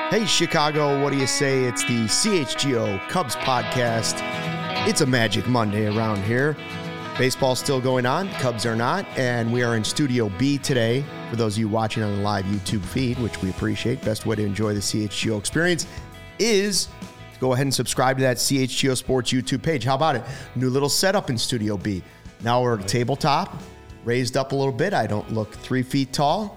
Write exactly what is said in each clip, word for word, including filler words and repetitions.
Hey, Chicago, what do you say? It's the C H G O Cubs podcast. It's a Magic Monday around here. Baseball's still going on, Cubs are not, and we are in Studio B today. For those of you watching on the live YouTube feed, which we appreciate, best way to enjoy the C H G O experience is to go ahead and subscribe to that C H G O Sports YouTube page. How about it? New little setup in Studio B. Now we're at a tabletop, raised up a little bit. I don't look three feet tall.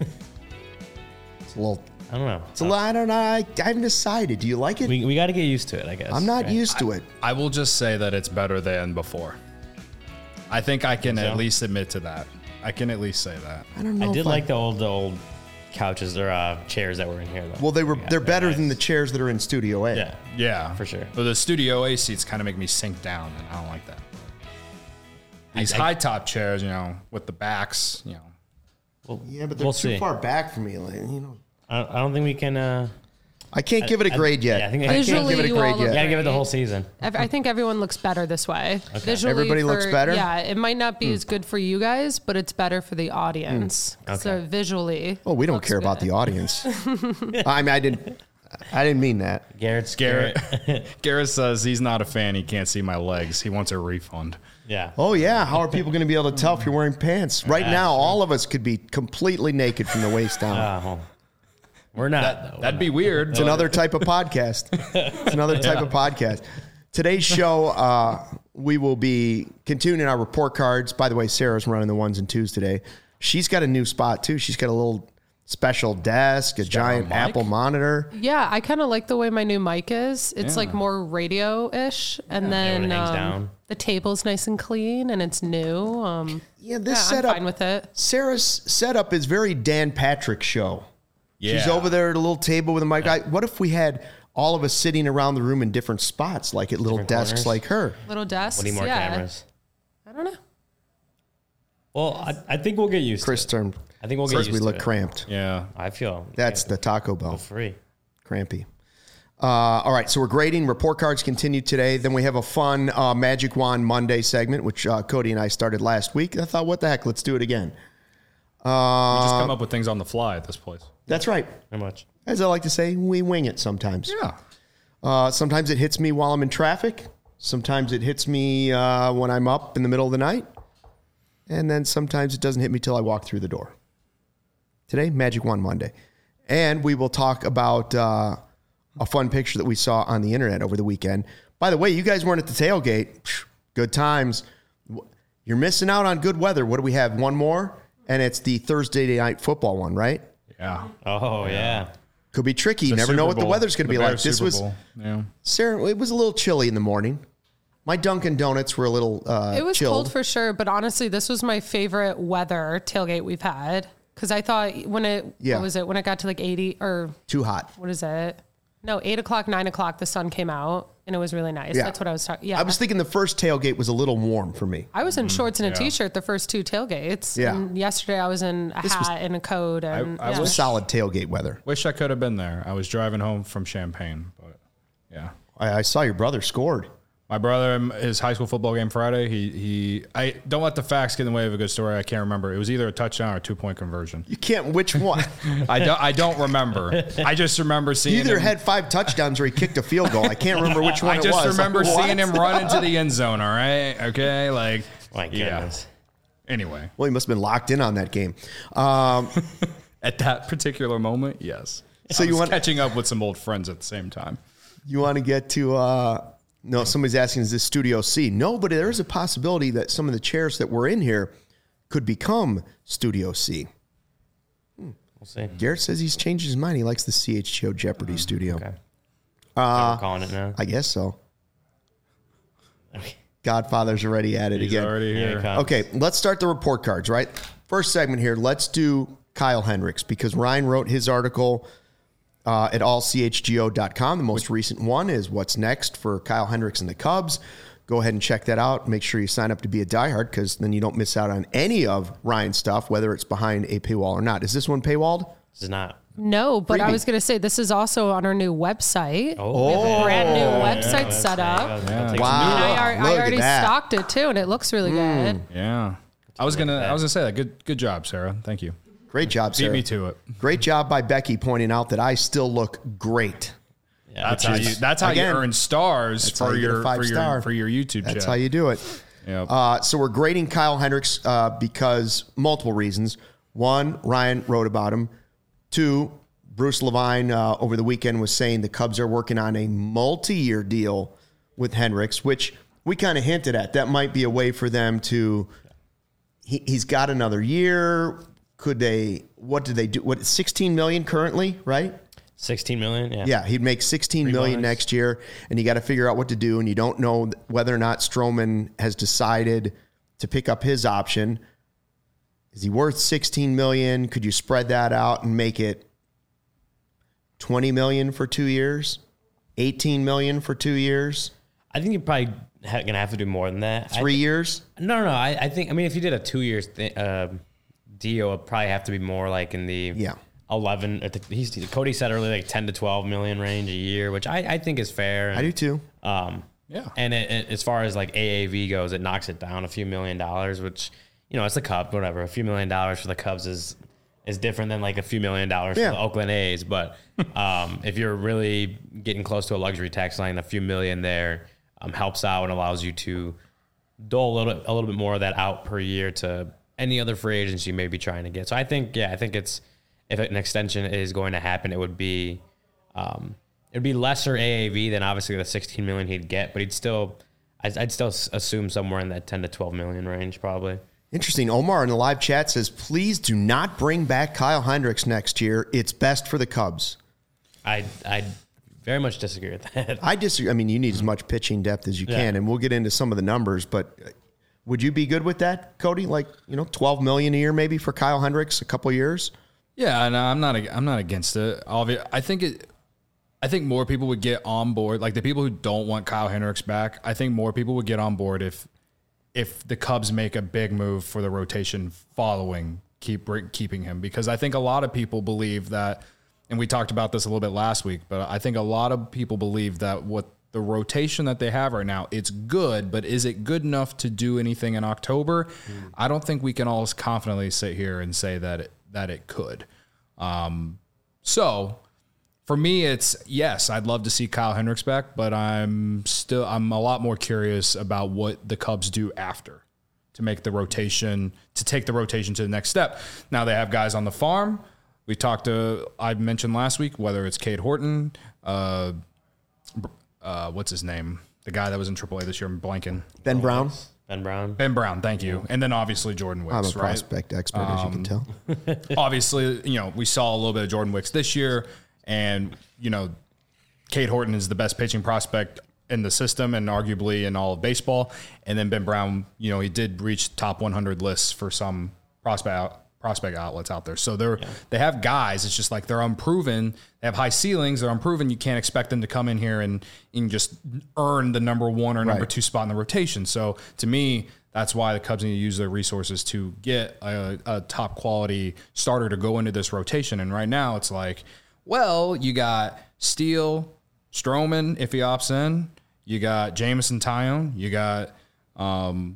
It's a little... I don't know. It's a lot. I don't know. I, I haven't decided. Do you like it? We, we got to get used to it, I guess. I'm not right? used to it. I will just say that it's better than before. I think I can So? at least admit to that. I can at least say that. I don't know. I did if like the old the old couches or uh, chairs that were in here, though. Well, they were. Yeah, they're better nice. than the chairs that are in Studio A. Yeah, Yeah. for sure. But the Studio A seats kind of make me sink down, and I don't like that. These I- high top chairs, you know, with the backs, you know. Well, Yeah, but they're we'll too see. far back for me. Like, you know, I don't, I don't think we can. Uh, I can't give it a I- grade yet. yeah, I think I I- can't Visually, give it a you grade all look we yet. got to give it the whole season. Ev- I think everyone looks better this way. Visually, Everybody for- looks better? Yeah, it might not be as good for you guys, but it's better for the audience. So Okay. visually, Oh, we don't looks care about good. the audience. I mean, I didn't. I didn't mean that. Garrett's Garrett, Garrett says he's not a fan. He can't see my legs. He wants a refund. Yeah. Oh yeah, how are people going to be able to tell if you're wearing pants? Right Yeah, now, sure. all of us could be completely naked from the waist down. Uh, well, we're not. That, though. that'd be weird. It's another type of podcast. It's another type of podcast. Today's show, uh, we will be continuing our report cards. By the way, Sarah's running the ones and twos today. She's got a new spot too. She's got a little special desk, a giant got a mic? Apple monitor. Yeah, I kind of like the way my new mic is. It's Yeah. like more radio-ish, and then Everything's um, down. the table's nice and clean, and it's new. Um, Yeah, this yeah, setup. I'm fine with it. Sarah's setup is very Dan Patrick show. Yeah. She's over there at a little table with a mic. I, what if we had all of us sitting around the room in different spots, like at little Different desks corners? like her? Little desks. We need more yeah. cameras. I don't know. Well, I, I think we'll get used Chris to it. turned. I think we'll get Says used we to look it. cramped. Yeah. I feel That's yeah, the Taco Bell. free. Crampy. Uh, all right, so we're grading. Report cards continue today. Then we have a fun uh, Magic Wand Monday segment, which uh, Cody and I started last week. I thought, what the heck? Let's do it again. we just come up with things on the fly at this place. That's right. Very much. As I like to say, we wing it sometimes. Yeah. Uh, sometimes it hits me while I'm in traffic. Sometimes it hits me uh, when I'm up in the middle of the night. And then sometimes it doesn't hit me till I walk through the door. Today, Magic Wand Monday. And we will talk about uh, a fun picture that we saw on the internet over the weekend. By the way, you guys weren't at the tailgate. Phew, good times. You're missing out on good weather. What do we have? One more? And it's the Thursday night football one, right? Yeah. Oh yeah. Could be tricky. You The never know Super what the Bowl. weather's going to The be like. Bears This Super was, Bowl. Yeah. Sarah, it was a little chilly in the morning. My Dunkin' Donuts were a little uh, It was chilled. cold for sure, but honestly, this was my favorite weather tailgate we've had. Because I thought when it, Yeah. what was it, when it got to like eighty or Too hot. what is it? No, eight o'clock, nine o'clock, the sun came out and it was really nice. Yeah. That's what I was talking. Yeah. I was thinking the first tailgate was a little warm for me. I was in shorts and a yeah. t-shirt the first two tailgates. Yeah. And yesterday I was in a This hat was- and a coat. And I yeah. wish- Solid tailgate weather. Wish I could have been there. I was driving home from Champaign, but yeah. I, I saw your brother scored. My brother, um, his high school football game Friday, he, he, I don't let the facts get in the way of a good story. I can't remember. It was either a touchdown or a two point conversion. You can't. Which one? I don't, I don't remember. I just remember He seeing either him. had five touchdowns or he kicked a field goal. I can't remember which one I it just was. remember What? seeing him run into the end zone. All right. Okay. Like, My yeah. goodness. Anyway, Well, he must have been locked in on that game. Um, at that particular moment, yes. So So you you was want- catching up with some old friends at the same time. you want to get to? Uh, no, somebody's asking, is this Studio C? No, but there is a possibility that some of the chairs that were in here could become Studio C. We'll see. Garrett says he's changed his mind. He likes the C H G O Jeopardy studio. Okay. Uh, We're calling it now. I guess so. Okay. Godfather's already at it He's again. already Here here. it comes. Okay, let's start the report cards, right? First segment here, let's do Kyle Hendricks because Ryan wrote his article uh, at all c h g o dot com. The most recent one is what's next for Kyle Hendricks and the Cubs. Go ahead and check that out. Make sure you sign up to be a diehard because then you don't miss out on any of Ryan's stuff, whether it's behind a paywall or not. Is this one paywalled? This is not. No, but Freebie. I was going to say this is also on our new website. Oh. We have a brand new Yeah, website that's set right. up. I'll- I'll take Wow. some And I, new- ar- Look I at already that. stocked it too, and it looks really good. Yeah. I was gonna. that. I was gonna say that. Good. Good job, Sarah. Thank you. Great job, Sarah. Beat me to it. Great job by Becky pointing out that I still look great. Yeah, That's how you. That's how again, you earn stars how for you get a your five for star. your for your YouTube That's channel. how you do it. Yep. Uh, so we're grading Kyle Hendricks uh, because multiple reasons. One, Ryan wrote about him. Two, Bruce Levine uh, over the weekend was saying the Cubs are working on a multi-year deal with Hendricks, which we kind of hinted at. That might be a way for them to. He, he's got another year. Could they? What did they do? What sixteen million currently? Right. sixteen million. Yeah. Yeah, he'd make sixteen Three million bonus. next year, and you got to figure out what to do. And you don't know whether or not Stroman has decided to pick up his option. Is he worth sixteen million? Could you spread that out and make it twenty million for two years, eighteen million for two years, I think you're probably ha- gonna have to do more than that. three I th- years? No, no, no. I, I think. I mean, if you did a two years th- uh, deal, it'd probably have to be more like in the Yeah. eleven. At the, he's Cody said earlier, like ten to twelve million range a year, which I, I think is fair. I do too. Um, Yeah. And it, it, as far as like A A V goes, it knocks it down a few million dollars, which, you know, it's the Cubs, whatever. A few million dollars for the Cubs is is different than like a few million dollars Yeah. for the Oakland A's. But um, if you're really getting close to a luxury tax line, a few million there um, helps out and allows you to dole a little, a little bit more of that out per year to any other free agents you may be trying to get. So I think, yeah, I think it's, if an extension is going to happen, it would be, um, it'd be lesser A A V than obviously the sixteen million he'd get, but he'd still, I'd, I'd still assume somewhere in that ten to twelve million range, probably. Interesting. Omar in the live chat says, please do not bring back Kyle Hendricks next year. It's best for the Cubs. I, I very much disagree with that. I disagree. I mean, you need as much pitching depth as you Yeah. can, and we'll get into some of the numbers, but would you be good with that, Cody? Like, you know, twelve million dollars a year maybe for Kyle Hendricks, a couple years? Yeah, no, I'm not. I'm not against it. Obvi- I think it. I think more people would get on board. Like the people who don't want Kyle Hendricks back, I think more people would get on board if, if the Cubs make a big move for the rotation following keep keeping him. Because I think a lot of people believe that, and we talked about this a little bit last week, but I think a lot of people believe that what the rotation that they have right now, it's good, but is it good enough to do anything in October? Mm. I don't think we can all confidently sit here and say that it, that it could. Um, so for me, it's yes, I'd love to see Kyle Hendricks back, but I'm still, I'm a lot more curious about what the Cubs do after to make the rotation, to take the rotation to the next step. Now they have guys on the farm. We talked to, I mentioned last week, whether it's Cade Horton, uh, uh, what's his name? The guy that was in triple A this year, I'm blanking. Ben Brown? Ben Brown. Ben Brown, thank you. And then obviously Jordan Wicks, I'm a right? prospect expert, as you can tell. Obviously, you know, we saw a little bit of Jordan Wicks this year, and, you know, Cade Horton is the best pitching prospect in the system and arguably in all of baseball. And then Ben Brown, you know, he did reach top one hundred lists for some prospect out, prospect outlets out there. So they're, yeah. they have guys. It's just like they're unproven. They have high ceilings. They're unproven. You can't expect them to come in here and, and just earn the number one or number right. two spot in the rotation. So to me, that's why the Cubs need to use their resources to get a, a top quality starter to go into this rotation. And right now it's like, well, you got Steele, Stroman, if he opts in. You got Jameson Taillon. You got um,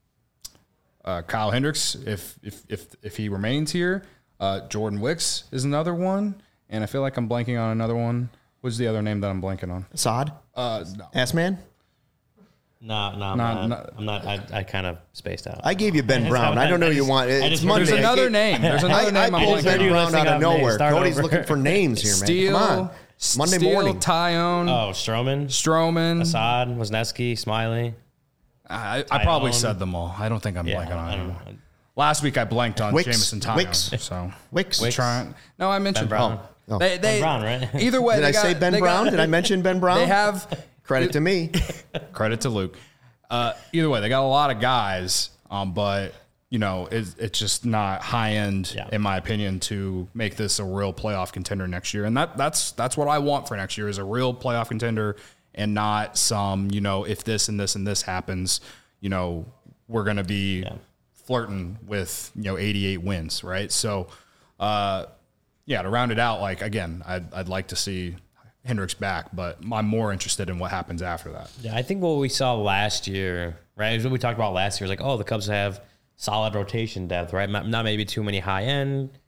uh, Kyle Hendricks, if if if if he remains here. Uh, Jordan Wicks is another one. And I feel like I'm blanking on another one. What's the other name that I'm blanking on? Assad? Uh, no. S-Man? No, no, I'm Not- not. not- I'm not. I, I kind of spaced out. I gave you Ben Brown. I don't know you want. It's just- Monday. There's another I gave- name. There's another I, name I I'm pulled blanking Ben on. Brown out of Listing nowhere. start Cody's over. looking for names here, man. Steele, Come on. Monday Steele, morning. Taillon, Oh, Stroman, Stroman. Assad, Wisniewski, Smiley. I, I probably Taillon. said them all. I don't think I'm Yeah, blanking on I don't anyone. know. Last week I blanked on Wicks. Jameson Taillon. Wicks. So Wicks. Wicks. Trying, no, I mentioned Ben Brown. Oh. They, they, Ben Brown, right? Either way, Did they I got, say Ben they Brown? Got, Did I mention Ben Brown? They have Credit to me. credit to Luke. Uh, either way, they got a lot of guys, um, but you know, it, it's just not high end, Yeah. in my opinion, to make this a real playoff contender next year. And that that's that's what I want for next year is a real playoff contender, and not some, you know, if this and this and this happens, you know, we're gonna be Yeah. flirting with, you know, eighty-eight wins, right? So, uh, yeah, to round it out, like again, I'd I'd like to see Hendricks back, but I'm more interested in what happens after that. Yeah, I think what we saw last year, right? What we talked about last year was like, oh, the Cubs have solid rotation depth, right? Not not maybe too many high end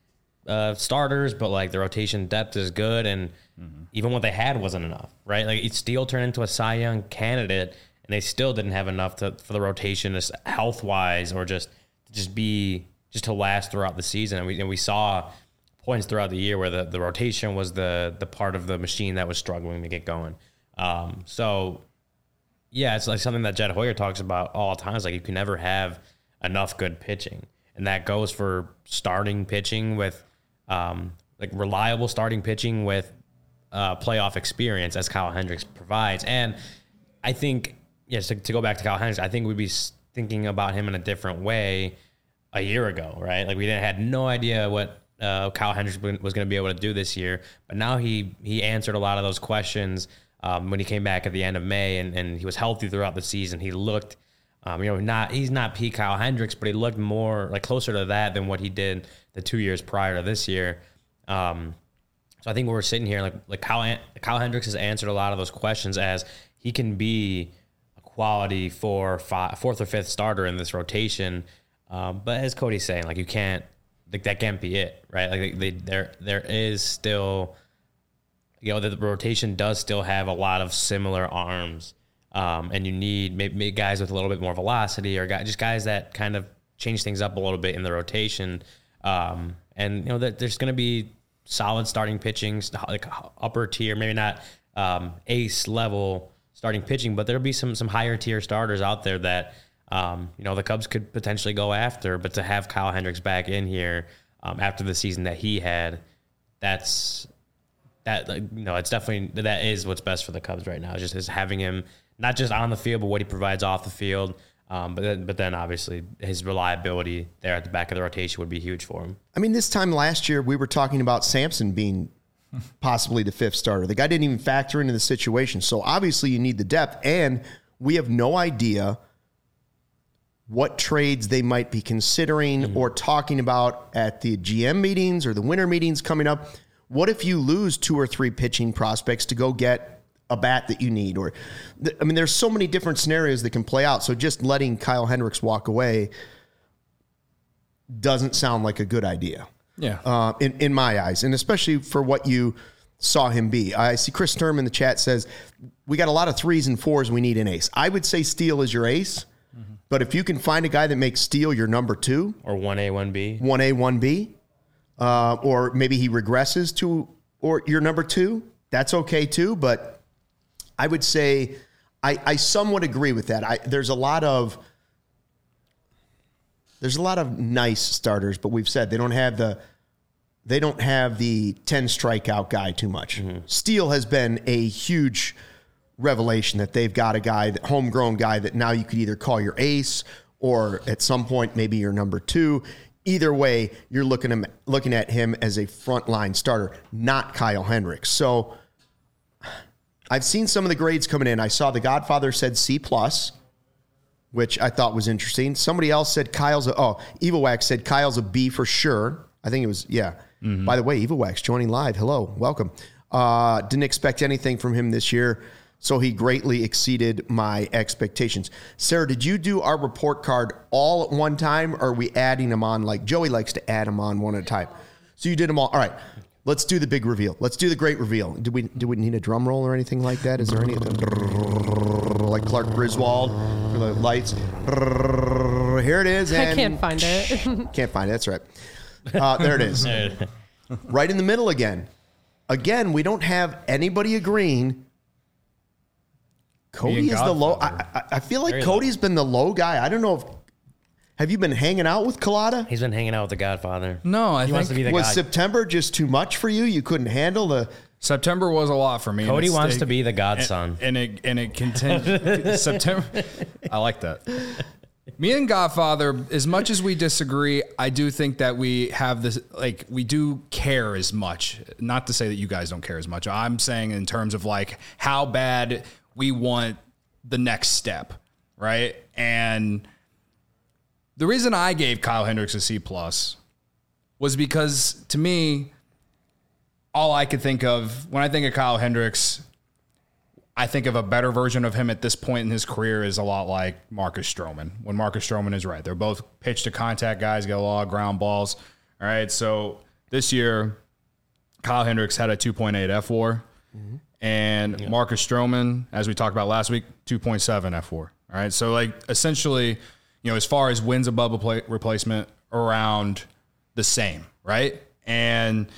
uh, starters, but like the rotation depth is good, and mm-hmm. even what they had wasn't enough, right? Like Steele turned into a Cy Young candidate, and they still didn't have enough to, for the rotation, just health wise, or just just be just to last throughout the season. And we and we saw points throughout the year where the, the rotation was the the part of the machine that was struggling to get going. Um, so yeah, it's like something that Jed Hoyer talks about all the time. It's like you can never have enough good pitching. And that goes for starting pitching with, um, like reliable starting pitching with uh, playoff experience, as Kyle Hendricks provides. And I think, yes, to, to go back to Kyle Hendricks, I think we'd be thinking about him in a different way a year ago, right? Like we didn't had no idea what uh, Kyle Hendricks was going to be able to do this year, but now he he answered a lot of those questions um, when he came back at the end of May, and, and he was healthy throughout the season. He looked. Um, you know, not he's not peak Kyle Hendricks, but he looked more like closer to that than what he did the two years prior to this year. Um, so I think we're sitting here like like Kyle, Kyle Hendricks has answered a lot of those questions as he can be a quality for five, fourth or fifth starter in this rotation. Um, but as Cody's saying, like you can't like that can't be it, right? Like they, there there is still, you know, the rotation does still have a lot of similar arms. Um, and you need maybe guys with a little bit more velocity, or guys, just guys that kind of change things up a little bit in the rotation. Um, and you know that there's going to be solid starting pitching, like upper tier, maybe not um, ace level starting pitching, but there'll be some some higher tier starters out there that um, you know the Cubs could potentially go after. But to have Kyle Hendricks back in here um, after the season that he had, that's that like, you know it's definitely that is what's best for the Cubs right now. Just is having him. Not just on the field, but what he provides off the field. Um, but then, but then obviously his reliability there at the back of the rotation would be huge for him. I mean, this time last year we were talking about Sampson being possibly the fifth starter. The guy didn't even factor into the situation. So obviously you need the depth, and we have no idea what trades they might be considering mm-hmm. or talking about at the G M meetings or the winter meetings coming up. What if you lose two or three pitching prospects to go get a bat that you need? Or, I mean, there's so many different scenarios that can play out. So just letting Kyle Hendricks walk away doesn't sound like a good idea. Yeah. Uh, in, in my eyes, and especially for what you saw him be. I see Chris Sturm in the chat says, we got a lot of threes and fours. We need an ace. I would say Steele is your ace, mm-hmm. but if you can find a guy that makes Steele your number two. Or one A, one B. one A, one B. Uh, or maybe he regresses to or your number two. That's okay too, but I would say I, I somewhat agree with that. I, there's a lot of there's a lot of nice starters, but we've said they don't have the they don't have the ten strikeout guy too much. Mm-hmm. Steele has been a huge revelation that they've got a guy, that homegrown guy that now you could either call your ace or at some point maybe your number two. Either way, you're looking at looking at him as a frontline starter, not Kyle Hendricks. So I've seen some of the grades coming in. I saw The Godfather said C plus, which I thought was interesting. Somebody else said Kyle's a, oh, Evowax said Kyle's a B for sure. I think it was, yeah. Mm-hmm. By the way, Evowax joining live. Hello, welcome. Uh, didn't expect anything from him this year, so he greatly exceeded my expectations. Sarah, did you do our report card all at one time, or are we adding them on? Like Joey likes to add them on one at a time. So you did them all. All right. Let's do the big reveal. Let's do the great reveal. Do we do we need a drum roll or anything like that? Is there any like Clark Griswold for the lights? Here it is. And I can't find it. Can't find it. That's right. Uh, there it is. Right in the middle again. Again, we don't have anybody agreeing. Cody is the low. I, I, I feel like Very Cody's low. been the low guy. I don't know if. Have you been hanging out with Collada? He's been hanging out with the Godfather. No, I he think wants to be the was guy. September just too much for you? You couldn't handle the September was a lot for me. Cody wants to be the godson, and, and it and it continued. September, I like that. Me and Godfather, as much as we disagree, I do think that we have this, like, we do care as much. Not to say that you guys don't care as much. I'm saying in terms of like how bad we want the next step, right? And the reason I gave Kyle Hendricks a C plus was because, to me, all I could think of when I think of Kyle Hendricks, I think of a better version of him at this point in his career is a lot like Marcus Stroman. When Marcus Stroman is right, they're both pitch to contact guys, get a lot of ground balls. All right, so this year, Kyle Hendricks had a two point eight F four, mm-hmm. and yeah. Marcus Stroman, as we talked about last week, two point seven F four. All right, so like essentially, you know, as far as wins above a replacement, around the same, right? And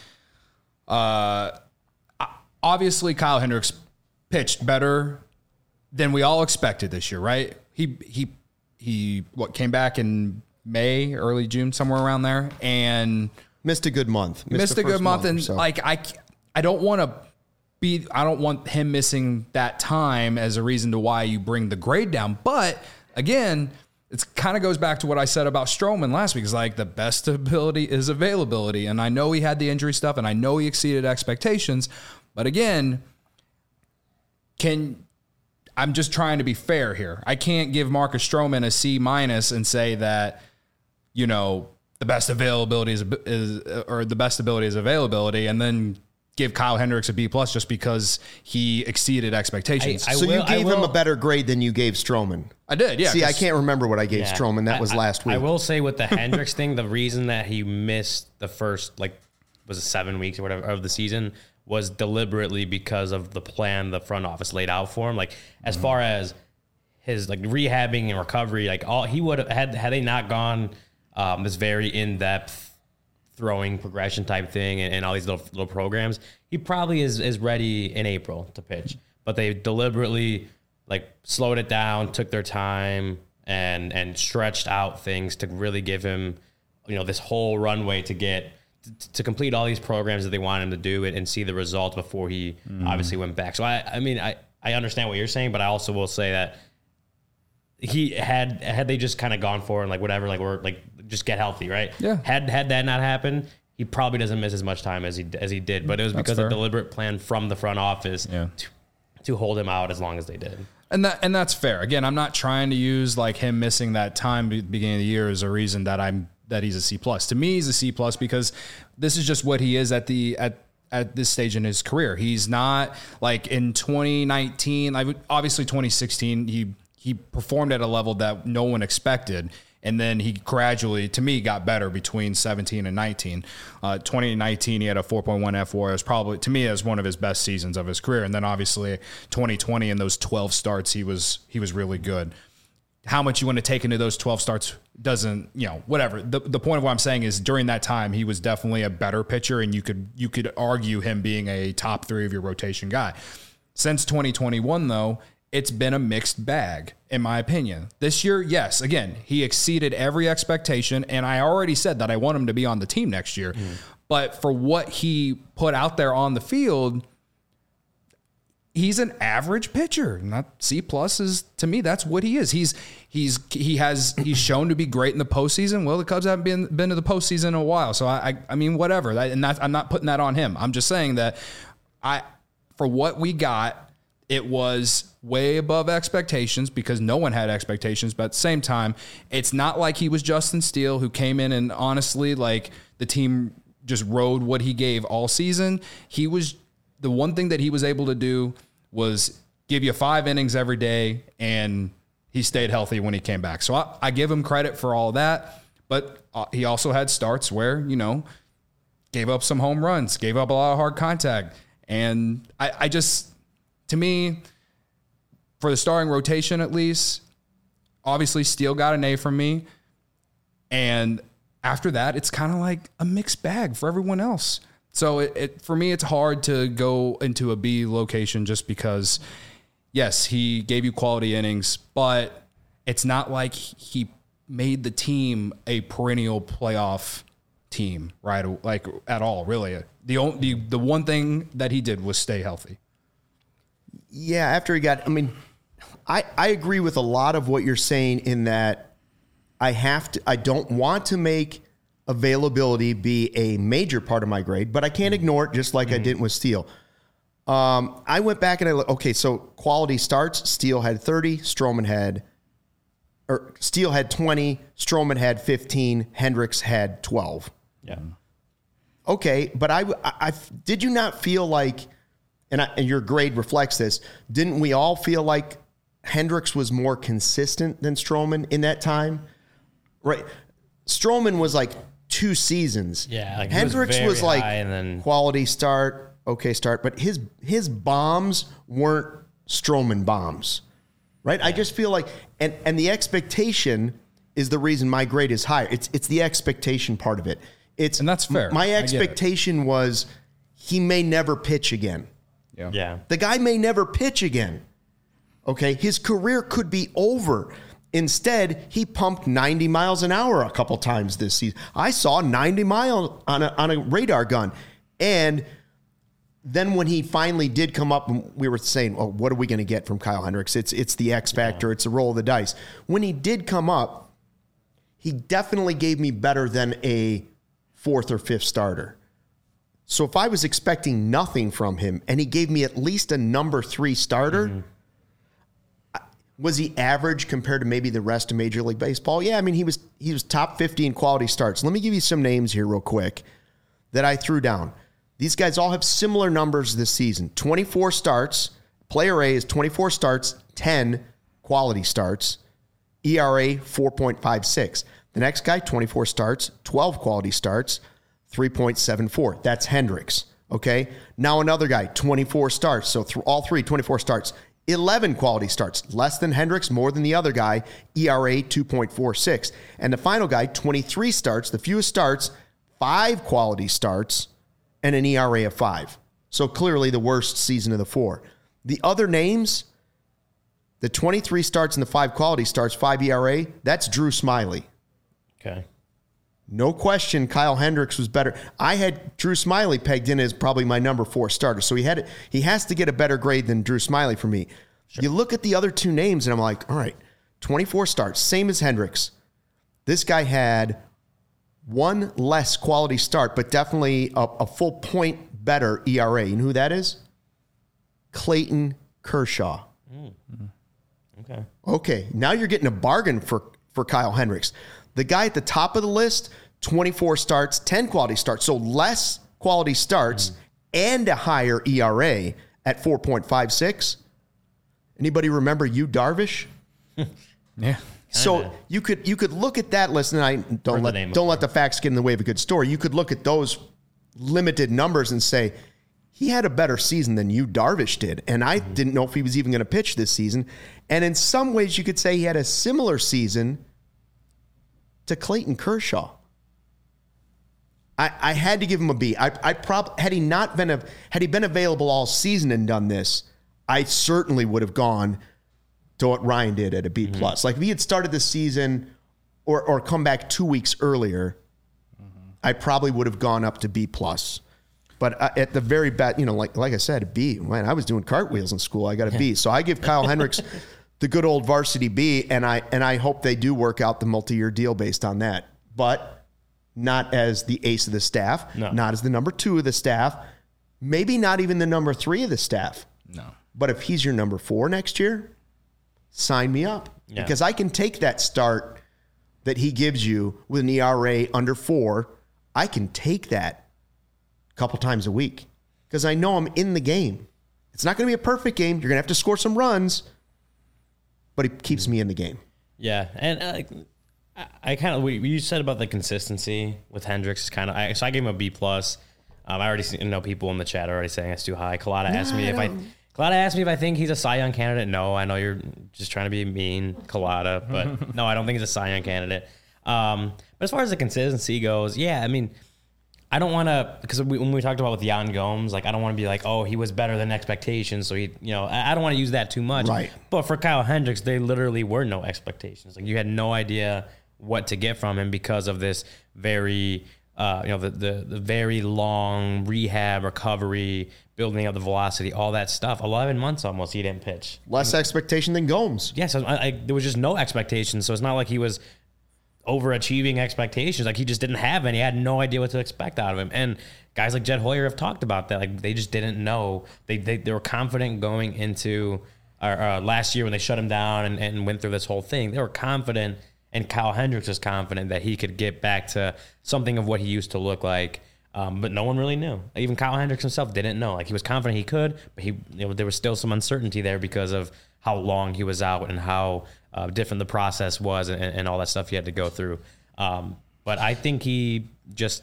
uh, obviously, Kyle Hendricks pitched better than we all expected this year, right? He he he what came back in May, early June, somewhere around there, and missed a good month. Missed, missed a good month, month and so. like I I don't want to be I don't want him missing that time as a reason to why you bring the grade down. But again, it kind of goes back to what I said about Stroman last week. It's like the best ability is availability, and I know he had the injury stuff, and I know he exceeded expectations, but again, can I'm just trying to be fair here. I can't give Marcus Stroman a C minus and say that, you know, the best availability is, is or the best ability is availability, and then give Kyle Hendricks a B plus just because he exceeded expectations. I, I so will, you gave will, him a better grade than you gave Stroman. I did, yeah. See, I can't remember what I gave yeah, Stroman. That was I, last week. I will say with the Hendricks thing, the reason that he missed the first, like, was it seven weeks or whatever of the season was deliberately because of the plan the front office laid out for him. Like, as mm-hmm. far as his, like, rehabbing and recovery, like, all he would have had, had they not gone um, this very in-depth throwing progression type thing and, and all these little little programs, he probably is is ready in April to pitch. But they deliberately like slowed it down, took their time, and and stretched out things to really give him, you know, this whole runway to get to, to complete all these programs that they want him to do it and see the results before he mm. obviously went back. So I I mean I I understand what you're saying, but I also will say that he had had they just kind of gone for it and like whatever, like we're like just get healthy, right? Yeah. Had had that not happened, he probably doesn't miss as much time as he as he did. But it was That's because fair. of deliberate plan from the front office yeah. to, to hold him out as long as they did. And that and that's fair. Again, I'm not trying to use like him missing that time at the beginning of the year as a reason that I'm that he's a C plus. To me, he's a C plus because this is just what he is at the at at this stage in his career. He's not like in twenty nineteen, like obviously twenty sixteen, he he performed at a level that no one expected. And then he gradually, to me, got better between seventeen and nineteen. Uh, twenty nineteen, he had a four point one F four. It was probably, to me, it was one of his best seasons of his career. And then obviously twenty twenty and those twelve starts, he was he was really good. How much you want to take into those twelve starts doesn't, you know, whatever. The the point of what I'm saying is during that time, he was definitely a better pitcher, and you could you could argue him being a top three of your rotation guy. Since twenty twenty-one, though, it's been a mixed bag, in my opinion. This year, yes, again, he exceeded every expectation, and I already said that I want him to be on the team next year. Mm. But for what he put out there on the field, he's an average pitcher. Not C plus is, to me, that's what he is. He's he's he has he's shown to be great in the postseason. Well, the Cubs haven't been been to the postseason in a while, so I I, I mean whatever. That, and that, I'm not putting that on him. I'm just saying that I for what we got, it was way above expectations because no one had expectations. But at the same time, it's not like he was Justin Steele, who came in and honestly, like, the team just rode what he gave all season. He was the one thing that he was able to do was give you five innings every day, and he stayed healthy when he came back. So I, I give him credit for all that. But uh, he also had starts where, you know, gave up some home runs, gave up a lot of hard contact. And I, I just... To me, for the starting rotation at least, obviously Steele got an A from me. And after that, it's kind of like a mixed bag for everyone else. So it, it for me, it's hard to go into a B location just because, yes, he gave you quality innings, but it's not like he made the team a perennial playoff team, right? Like at all, really. The only, the, the one thing that he did was stay healthy. Yeah, after he got, I mean, I, I agree with a lot of what you're saying in that I have to, I don't want to make availability be a major part of my grade, but I can't ignore it just like mm-hmm. I didn't with Steele. Um, I went back and I looked, okay, so quality starts, Steele had thirty, Stroman had, or Steele had twenty, Stroman had fifteen, Hendricks had twelve. Yeah. Okay, but I, I, I did you not feel like, And, I, and your grade reflects this, didn't we all feel like Hendricks was more consistent than Stroman in that time? Right. Stroman was like two seasons. Yeah, like Hendricks was, was like and then quality start, okay start, but his his bombs weren't Stroman bombs, right? I just feel like, and and the expectation is the reason my grade is higher. It's it's the expectation part of it. It's And that's fair. My I get it. expectation was he may never pitch again. Yeah. yeah, The guy may never pitch again. Okay, his career could be over. Instead, he pumped ninety miles an hour a couple times this season. I saw ninety miles on a, on a radar gun. And then when he finally did come up, we were saying, well, what are we going to get from Kyle Hendricks? It's, it's the X factor. Yeah. It's a roll of the dice. When he did come up, he definitely gave me better than a fourth or fifth starter. So if I was expecting nothing from him and he gave me at least a number three starter, mm-hmm. Was he average compared to maybe the rest of Major League Baseball? Yeah, I mean, he was he was top fifty in quality starts. Let me give you some names here real quick that I threw down. These guys all have similar numbers this season. twenty-four starts. Player A is twenty-four starts, ten quality starts. E R A four point five six. The next guy, twenty-four starts, twelve quality starts, three point seven four. That's Hendricks, okay? Now another guy, twenty-four starts. So through all three, twenty-four starts. eleven quality starts, less than Hendricks, more than the other guy, E R A two point four six. And the final guy, twenty-three starts, the fewest starts, five quality starts, and an E R A of five. So clearly the worst season of the four. The other names, the twenty-three starts and the five quality starts, five E R A, that's Drew Smyly. Okay. No question, Kyle Hendricks was better. I had Drew Smyly pegged in as probably my number four starter. So he had he has to get a better grade than Drew Smyly for me. Sure. You look at the other two names, and I'm like, all right, twenty-four starts, same as Hendricks. This guy had one less quality start, but definitely a, a full point better E R A. You know who that is? Clayton Kershaw. Mm. Okay. Okay, now you're getting a bargain for, for Kyle Hendricks. The guy at the top of the list, twenty-four starts, ten quality starts. So less quality starts mm. and a higher E R A at four point five six. Anybody remember Yu Darvish? Yeah. So you could you could look at that list, and I don't let don't let the facts get in the way of a good story. You could look at those limited numbers and say he had a better season than Yu Darvish did, and I mm-hmm. didn't know if he was even going to pitch this season. And in some ways, you could say he had a similar season to Clayton Kershaw. I, I had to give him a B. I, I prob had he not been a had he been available all season and done this, I certainly would have gone to what Ryan did at a B plus. Mm-hmm. Like if he had started the season or or come back two weeks earlier, mm-hmm. I probably would have gone up to B plus. But uh, at the very best, you know, like like I said, a B. Man, I was doing cartwheels in school. I got a B. So I give Kyle Hendricks the good old varsity B, and I and I hope they do work out the multi-year deal based on that. But not as the ace of the staff, no. not as the number two of the staff, maybe not even the number three of the staff. No. But if he's your number four next year, sign me up. Yeah. Because I can take that start that he gives you with an E R A under four. I can take that a couple times a week because I know I'm in the game. It's not going to be a perfect game. You're going to have to score some runs, but it keeps me in the game. Yeah, and uh, I, I kind of what you said about the consistency with Hendricks is kind of. I, so I gave him a B plus. Um, I already see, you know people in the chat are already saying it's too high. Colada no, asked me I if I. Colada asked me if I think he's a Cy Young candidate. No, I know you're just trying to be mean, Colada, but no, I don't think he's a Cy Young candidate. Um, but as far as the consistency goes, yeah, I mean. I don't want to, because we, when we talked about with Yan Gomes, like I don't want to be like, oh, he was better than expectations. So he, you know, I, I don't want to use that too much. Right. But for Kyle Hendricks, they literally were no expectations. Like you had no idea what to get from him because of this very, uh, you know, the, the the very long rehab, recovery, building up the velocity, all that stuff. Eleven months almost he didn't pitch. Less expectation than Gomes. Yeah, so I, I, there was just no expectation. So it's not like he was overachieving expectations. Like he just didn't have any. I had no idea what to expect out of him. And guys like Jed Hoyer have talked about that. Like they just didn't know. They they, they were confident going into uh, uh, last year when they shut him down and, and went through this whole thing. They were confident, and Kyle Hendricks was confident that he could get back to something of what he used to look like. Um, but no one really knew. Even Kyle Hendricks himself didn't know. Like he was confident he could, but he you know, there was still some uncertainty there because of how long he was out and how uh, different the process was and, and all that stuff he had to go through. Um, but I think he just,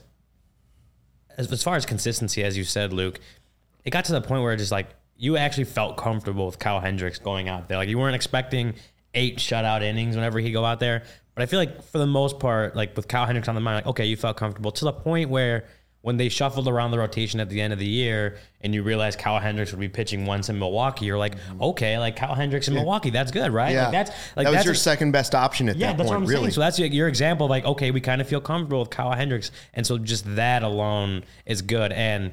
as, as far as consistency, as you said, Luke, it got to the point where it just like you actually felt comfortable with Kyle Hendricks going out there. Like you weren't expecting eight shutout innings whenever he go out there. But I feel like for the most part, like with Kyle Hendricks on the mind, like, okay, you felt comfortable to the point where when they shuffled around the rotation at the end of the year and you realize Kyle Hendricks would be pitching once in Milwaukee, you're like, okay, like Kyle Hendricks in yeah. Milwaukee, that's good, right? Yeah. Like that's like that was that's your a, second best option at yeah, that that's point, what I'm really. saying. So that's your, your example of like, okay, we kind of feel comfortable with Kyle Hendricks. And so just that alone is good. And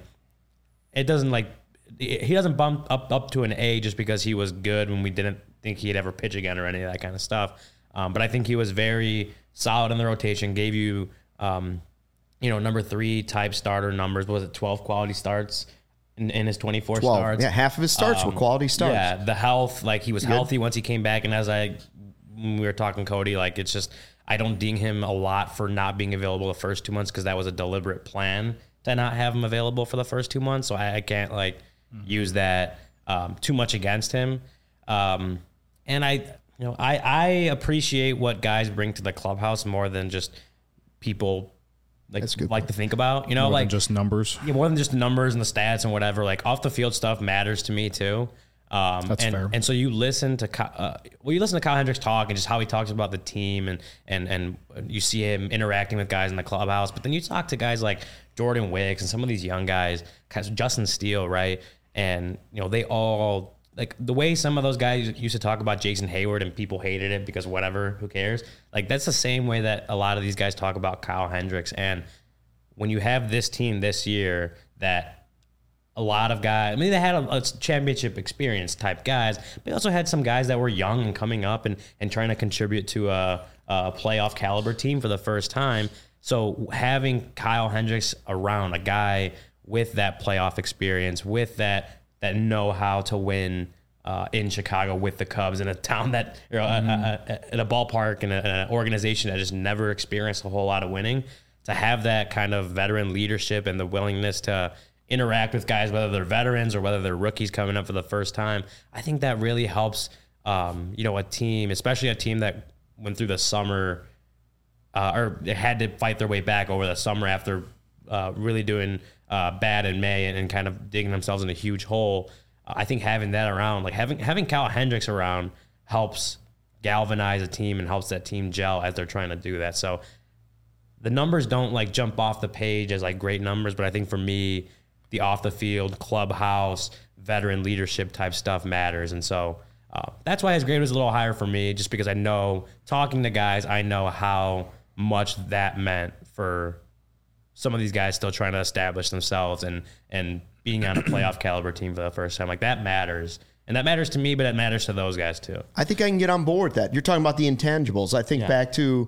it doesn't like, he doesn't bump up, up to an A just because he was good when we didn't think he'd ever pitch again or any of that kind of stuff. Um, but I think he was very solid in the rotation, gave you, um, you know, number three type starter numbers. What was it, twelve quality starts in, in his twenty-four twelve. starts? Yeah, half of his starts um, were quality starts. Yeah, the health, like he was Good. healthy once he came back. And as I, when we were talking Cody, like it's just, I don't ding him a lot for not being available the first two months because that was a deliberate plan to not have him available for the first two months. So I, I can't like mm-hmm. use that um, too much against him. Um, and I, you know, I, I appreciate what guys bring to the clubhouse more than just people like like point. to think about, you know, more like than just numbers. Yeah, more than just the numbers and the stats and whatever. Like off the field stuff matters to me too. Um, That's and, fair. And so you listen to uh, well, you listen to Kyle Hendricks talk and just how he talks about the team and and and you see him interacting with guys in the clubhouse. But then you talk to guys like Jordan Wicks and some of these young guys, Justin Steele, right? And you know they all. Like the way some of those guys used to talk about Jason Hayward and people hated it because whatever, who cares? Like that's the same way that a lot of these guys talk about Kyle Hendricks. And when you have this team this year that a lot of guys, I mean, they had a, a championship experience type guys, but they also had some guys that were young and coming up and, and trying to contribute to a, a playoff caliber team for the first time. So having Kyle Hendricks around, a guy with that playoff experience, with that that know how to win uh, in Chicago with the Cubs in a town that, you know, mm-hmm. a, a, a, in a ballpark and an organization that just never experienced a whole lot of winning, to have that kind of veteran leadership and the willingness to interact with guys, whether they're veterans or whether they're rookies coming up for the first time, I think that really helps, um, you know, a team, especially a team that went through the summer uh, or they had to fight their way back over the summer after uh, really doing uh, bad in May and, and kind of digging themselves in a huge hole. Uh, I think having that around, like having having Kyle Hendricks around, helps galvanize a team and helps that team gel as they're trying to do that. So the numbers don't like jump off the page as like great numbers, but I think for me, the off the field, clubhouse, veteran leadership type stuff matters. And so uh, that's why his grade was a little higher for me, just because I know, talking to guys, I know how much that meant for some of these guys still trying to establish themselves and and being on a playoff caliber team for the first time. Like that matters. And that matters to me, but it matters to those guys too. I think I can get on board with that. You're talking about the intangibles. I think Yeah. back to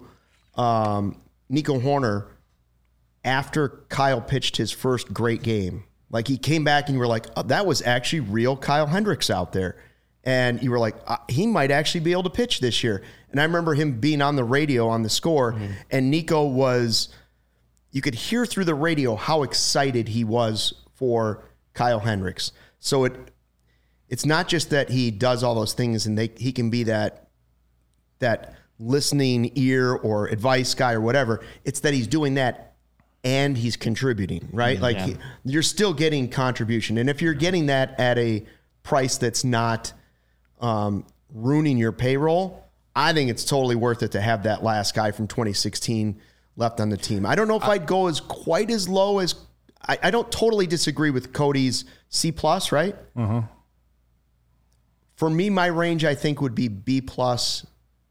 um, Nico Hoerner after Kyle pitched his first great game. Like he came back and you were like, oh, that was actually real Kyle Hendricks out there. And you were like, uh, he might actually be able to pitch this year. And I remember him being on the radio on the score, mm-hmm. and Nico was, you could hear through the radio how excited he was for Kyle Hendricks. So it it's not just that he does all those things and they, he can be that that listening ear or advice guy or whatever. It's that he's doing that and he's contributing, right? Like Yeah. he, you're still getting contribution. And if you're getting that at a price that's not um, ruining your payroll, I think it's totally worth it to have that last guy from twenty sixteen left on the team. I don't know if I'd go as quite as low as I, I don't totally disagree with Cody's C plus, right? Uh-huh. For me, my range I think would be B plus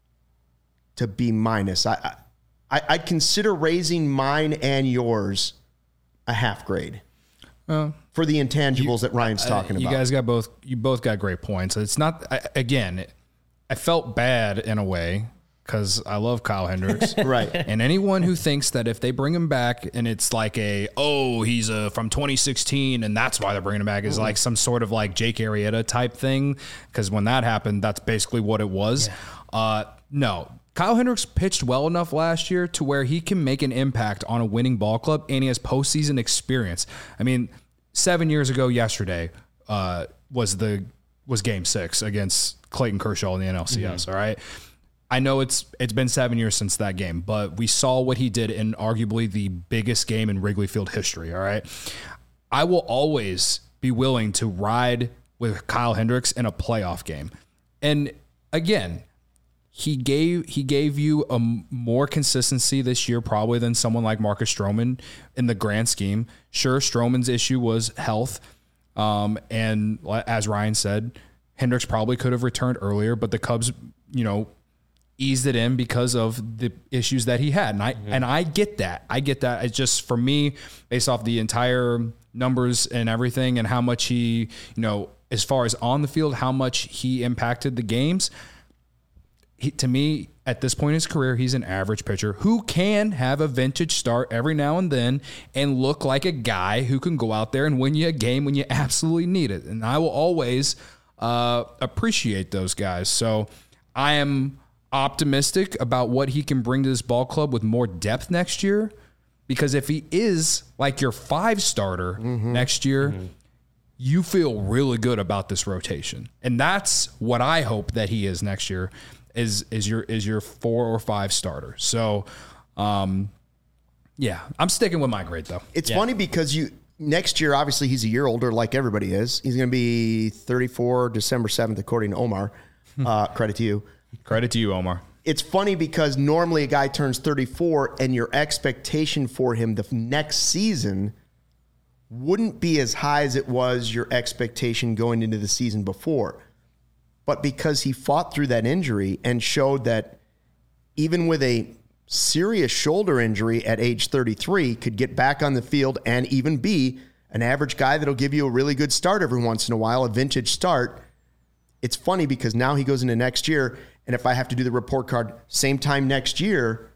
to B minus. I, I I'd consider raising mine and yours a half grade Uh, for the intangibles you, that Ryan's talking uh, you about. You guys got both. You both got great points. It's not I, again. I felt bad in a way because I love Kyle Hendricks, Right. And anyone who thinks that if they bring him back and it's like a oh he's a from twenty sixteen and that's why they're bringing him back is like some sort of like Jake Arrieta type thing, because when that happened, that's basically what it was. Yeah. Uh, no. Kyle Hendricks pitched well enough last year to where he can make an impact on a winning ball club, and he has postseason experience. I mean, seven years ago yesterday uh, was the was Game Six against Clayton Kershaw in the N L C S. Mm-hmm. All right, I know it's it's been seven years since that game, but we saw what he did in arguably the biggest game in Wrigley Field history, all right? I will always be willing to ride with Kyle Hendricks in a playoff game. And again, he gave he gave you a more consistency this year probably than someone like Marcus Stroman in the grand scheme. Sure, Stroman's issue was health. Um, and as Ryan said, Hendricks probably could have returned earlier, but the Cubs, you know, eased it in because of the issues that he had. And I, mm-hmm. and I get that. I get that. It's just for me, based off the entire numbers and everything and how much he, you know, as far as on the field, how much he impacted the games. He, to me, at this point in his career, he's an average pitcher who can have a vintage start every now and then and look like a guy who can go out there and win you a game when you absolutely need it. And I will always uh, appreciate those guys. So I am optimistic about what he can bring to this ball club with more depth next year, because if he is like your five starter mm-hmm. next year, mm-hmm. you feel really good about this rotation. And that's what I hope that he is next year. Is is your is your four or five starter. So, um, yeah, I'm sticking with my grade though. It's yeah. funny because you next year, obviously, he's a year older, like everybody is. He's going to be thirty-four December seventh, according to Omar. Uh, credit to you. Credit to you, Omar. It's funny because normally a guy turns thirty-four, and your expectation for him the next season wouldn't be as high as it was your expectation going into the season before. But because he fought through that injury and showed that even with a serious shoulder injury at age thirty-three, could get back on the field and even be an average guy that'll give you a really good start every once in a while, a vintage start. It's funny because now he goes into next year, and if I have to do the report card same time next year,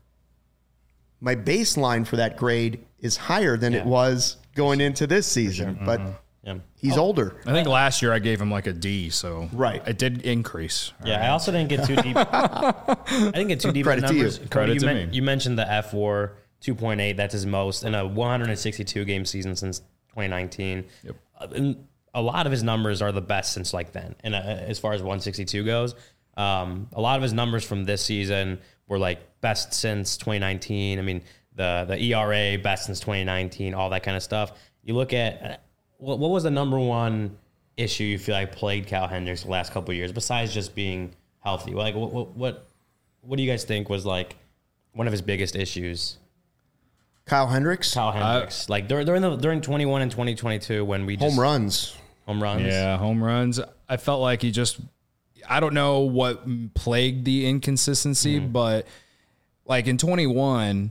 my baseline for that grade is higher than yeah. it was going into this season. Sure. But mm-hmm. Yeah. He's oh, older. I think last year I gave him like a D, so right. it did increase. Yeah, right. I also didn't get too deep. I didn't get too deep in numbers. To you. Cody, Credit you, to men- me. you mentioned the F W A R two point eight. That's his most in a one hundred sixty-two game season since twenty nineteen. Yep. Uh, and a lot of his numbers are the best since like then. And uh, as far as one sixty-two goes, um, a lot of his numbers from this season were like best since twenty nineteen. I mean, the the E R A best since twenty nineteen, all that kind of stuff. You look at. What what was the number one issue you feel like plagued Cal Hendricks the last couple of years besides just being healthy? Like what what what what do you guys think was like one of his biggest issues? Kyle Hendricks. Kyle Hendricks, uh, like during during the during twenty-one and twenty twenty-two when we just, home runs, home runs, yeah, home runs. I felt like he just I don't know what plagued the inconsistency, mm-hmm. but like in twenty-one,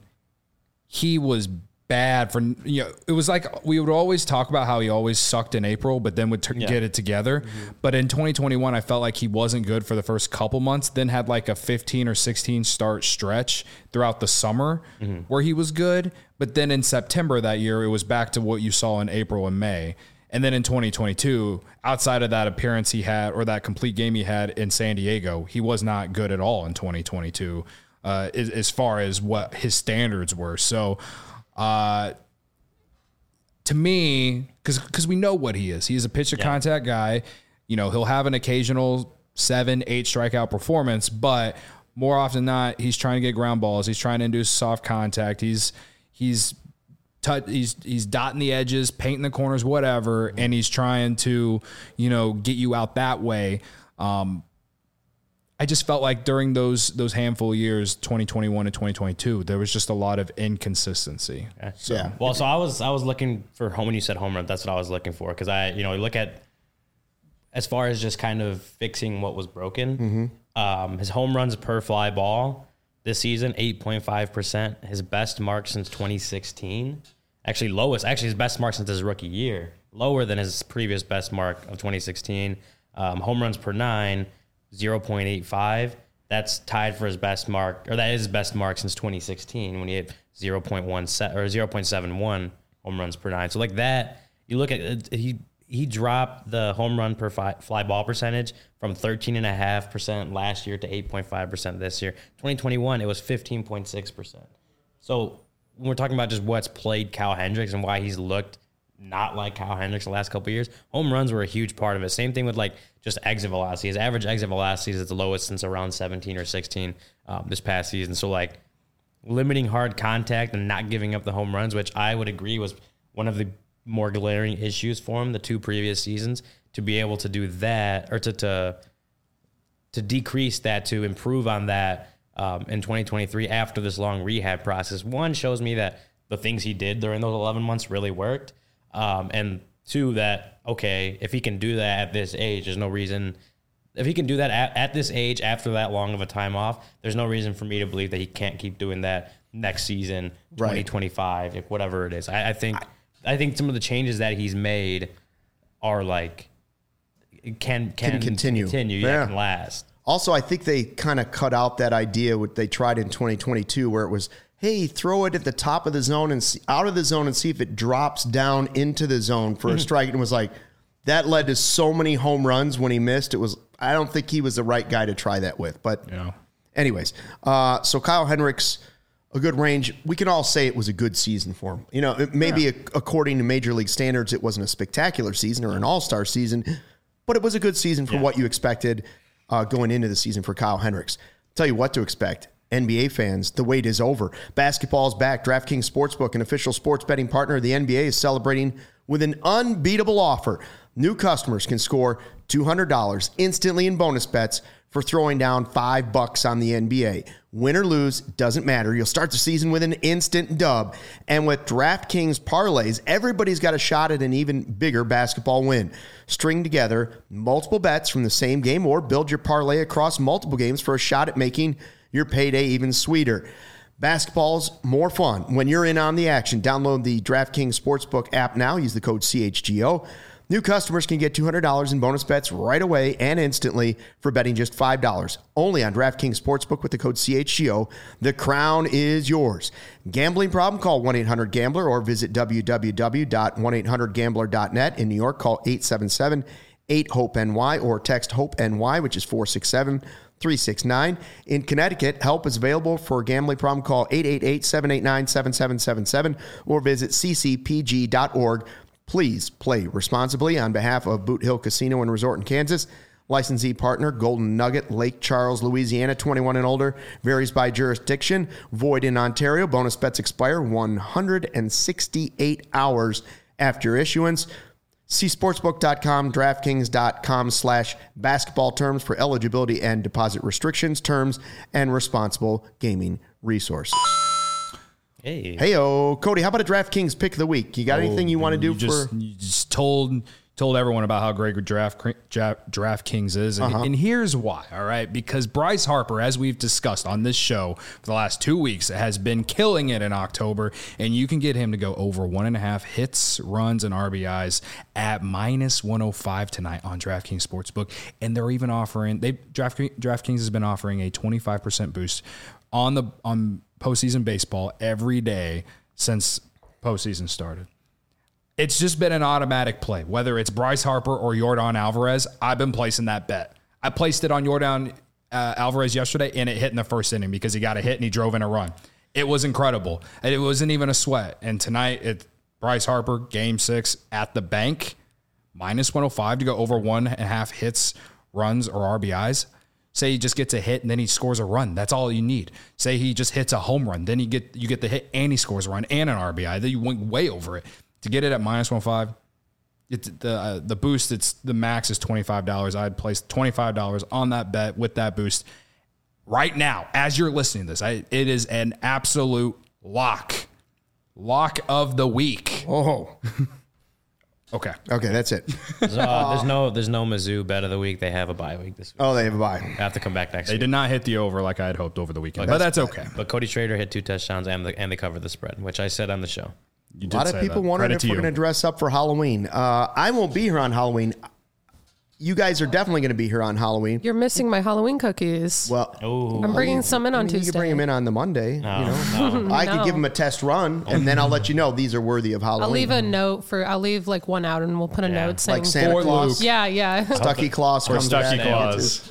he was. Bad for, you know, it was like we would always talk about how he always sucked in April, but then would t- yeah. get it together. Mm-hmm. But in twenty twenty-one, I felt like he wasn't good for the first couple months, then had like a fifteen or sixteen start stretch throughout the summer mm-hmm. where he was good. But then in September that year, it was back to what you saw in April and May. And then in twenty twenty-two, outside of that appearance he had or that complete game he had in San Diego, he was not good at all in twenty twenty-two uh, as, as far as what his standards were. So, Uh, to me, because because we know what he is. He is a pitch to contact guy. You know, he'll have an occasional seven, eight strikeout performance, but more often than not, he's trying to get ground balls. He's trying to induce soft contact. He's he's tut, he's he's dotting the edges, painting the corners, whatever, and he's trying to, you know, get you out that way. Um, I just felt like during those those handful of years, twenty twenty-one and twenty twenty-two, there was just a lot of inconsistency. Okay. So, yeah. Well, so I was I was looking for home when you said home run. That's what I was looking for because I you know look at as far as just kind of fixing what was broken. Mm-hmm. Um, his home runs per fly ball this season eight point five percent. His best mark since twenty sixteen. Actually lowest. Actually his best mark since his rookie year. Lower than his previous best mark of twenty sixteen. Um, home runs per nine. zero point eight five. That's tied for his best mark, or that is his best mark since twenty sixteen when he had zero point one set or zero point seven one home runs per nine. So like that, you look at it, he he dropped the home run per fly, fly ball percentage from thirteen and a half percent last year to eight point five percent this year. twenty twenty-one, it was fifteen point six percent. So when we're talking about just what's played Kyle Hendricks and why he's looked not like Kyle Hendricks the last couple of years, home runs were a huge part of it. Same thing with like just exit velocity. His average exit velocity is the lowest since around seventeen or sixteen um, this past season. So like limiting hard contact and not giving up the home runs, which I would agree was one of the more glaring issues for him the two previous seasons, to be able to do that or to to, to decrease that, to improve on that um, in twenty twenty-three after this long rehab process. One, shows me that the things he did during those eleven months really worked. Um, and two, that, okay, if he can do that at this age, there's no reason, if he can do that at, at this age after that long of a time off, there's no reason for me to believe that he can't keep doing that next season, twenty twenty-five, right. whatever it is. I, I think, I, I think some of the changes that he's made are like, can, can, can continue, continue, yeah, yeah, can last. Also, I think they kind of cut out that idea what they tried in twenty twenty-two where it was, hey, throw it at the top of the zone and see, out of the zone and see if it drops down into the zone for a strike. And it was like, that led to so many home runs when he missed. It was, I don't think he was the right guy to try that with. But yeah. anyways, uh, so Kyle Hendricks, a good range. We can all say it was a good season for him. You know, it, maybe yeah. a, according to Major League standards, it wasn't a spectacular season or an all-star season, but it was a good season for yeah. what you expected uh, going into the season for Kyle Hendricks. Tell you what to expect. N B A fans, the wait is over. Basketball is back. DraftKings Sportsbook, an official sports betting partner of the N B A, is celebrating with an unbeatable offer. New customers can score two hundred dollars instantly in bonus bets for throwing down five bucks on the N B A. Win or lose, doesn't matter. You'll start the season with an instant dub. And with DraftKings parlays, everybody's got a shot at an even bigger basketball win. String together multiple bets from the same game or build your parlay across multiple games for a shot at making your payday even sweeter. Basketball's more fun when you're in on the action. Download the DraftKings Sportsbook app now. Use the code C H G O. New customers can get two hundred dollars in bonus bets right away and instantly for betting just five dollars. Only on DraftKings Sportsbook with the code C H G O. The crown is yours. Gambling problem? Call one eight hundred gambler or visit w w w dot one eight hundred gambler dot net. In New York, call eight seven seven eight hope N Y or text HOPE-NY, which is four six seven three six nine. In Connecticut, help is available for a gambling problem. Call eight eight eight seven eight nine seven seven seven seven or visit c c p g dot org. Please play responsibly on behalf of Boot Hill Casino and Resort in Kansas. Licensee partner, Golden Nugget, Lake Charles, Louisiana, twenty-one and older. Varies by jurisdiction. Void in Ontario. Bonus bets expire one hundred sixty-eight hours after issuance. See sportsbook dot com, DraftKings dot com slash basketball terms for eligibility and deposit restrictions, terms, and responsible gaming resources. Hey. Hey-o. Cody, how about a DraftKings pick of the week? You got oh, anything you want to do you for... Just, you just told told everyone about how great Draft DraftKings is. And, uh-huh. and here's why, all right? Because Bryce Harper, as we've discussed on this show for the last two weeks, has been killing it in October. And you can get him to go over one and a half hits, runs, and R B Is at minus one oh five tonight on DraftKings Sportsbook. And they're even offering... they Draft, DraftKings has been offering a twenty-five percent boost on the on postseason baseball every day since postseason started. It's just been an automatic play. Whether it's Bryce Harper or Yordan Alvarez, I've been placing that bet. I placed it on Yordan uh, Alvarez yesterday, and it hit in the first inning because he got a hit and he drove in a run. It was incredible. And it wasn't even a sweat. And tonight, it Bryce Harper, game six at the bank, minus one oh five to go over one and a half hits, runs, or R B Is. Say he just gets a hit and then he scores a run. That's all you need. Say he just hits a home run. Then you get you get the hit and he scores a run and an R B I. Then you went way over it. To get it at minus one oh five, it's the uh, the boost, it's the max is twenty-five dollars. I'd place twenty-five dollars on that bet with that boost right now. As you're listening to this, I, it is an absolute lock. Lock of the week. Oh. Okay. Okay, that's it. There's, uh, there's no there's no Mizzou bet of the week. They have a bye week this week. Oh, they have a bye. They have to come back next they week. They did not hit the over like I had hoped over the weekend, but but that's, that's okay. But Cody Schrader hit two touchdowns and the, and they covered the spread, which I said on the show. You a lot of people that. wondering Credit if we're going to dress up for Halloween. Uh, I won't be here on Halloween. You guys are definitely going to be here on Halloween. You're missing my Halloween cookies. Well, oh. I'm bringing some in on I mean, Tuesday. You can bring them in on the Monday. No, you know, no. I No. could give them a test run, and then I'll let you know these are worthy of Halloween. I'll leave a note for. I'll leave like one out, and we'll put a Yeah. note saying like Santa For Claus. Luke. Yeah, yeah. Stucky Claus Or comes Stucky back. Claus.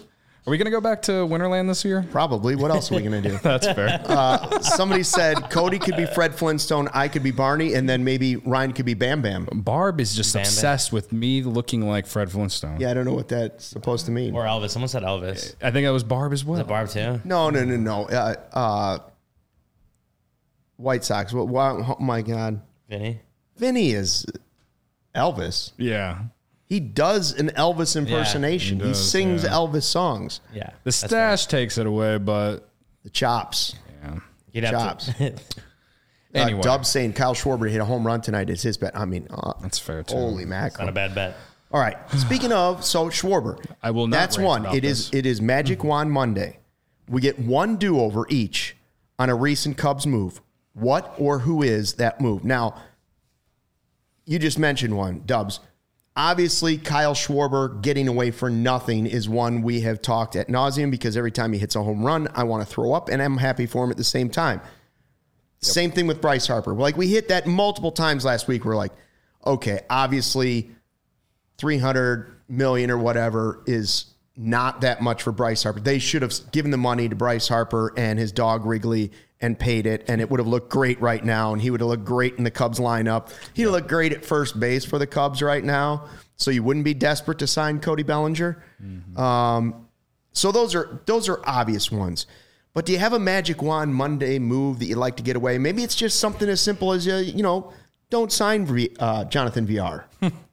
Are we going to go back to Winterland this year? Probably. What else are we going to do? That's fair. Uh, somebody said Cody could be Fred Flintstone, I could be Barney, and then maybe Ryan could be Bam Bam. Barb is just Bam Bam. obsessed with me looking like Fred Flintstone. Yeah, I don't know what that's supposed to mean. Or Elvis. Someone said Elvis. I think that was Barb as well. The Barb too. No, no, no, no. Uh, uh, White Sox. What, what? Oh, my God. Vinny. Vinny is Elvis. Yeah. He does an Elvis impersonation. he he, does, sings yeah. Elvis songs. Yeah. The that's stash takes it away, but The chops. yeah. You'd have Chops. to. Anyway. Uh, Dub's saying Kyle Schwarber hit a home run tonight is his bet. I mean, uh, That's fair, too. Holy Not mackerel. a bad bet. All right. Speaking of, so Schwarber. I will not That's rant one. about It is. this. It is Magic Wand Monday. We get one do-over each on a recent Cubs move. What or who is that move? Now, you just mentioned one, Dubs. Obviously, Kyle Schwarber getting away for nothing is one we have talked at nauseum because every time he hits a home run, I want to throw up, and I'm happy for him at the same time. Yep. Same thing with Bryce Harper. Like, we hit that multiple times last week. We're like, okay, obviously three hundred million dollars or whatever is not that much for Bryce Harper. They should have given the money to Bryce Harper and his dog Wrigley and paid it, and it would have looked great right now, and he would have looked great in the Cubs lineup. He'd look great at first base for the Cubs right now, so you wouldn't be desperate to sign Cody Bellinger. Mm-hmm. Um, so those are those are obvious ones. But do you have a Magic Wand Monday move that you'd like to get away? Maybe it's just something as simple as, uh, you know, don't sign v- uh, Jonathan V R.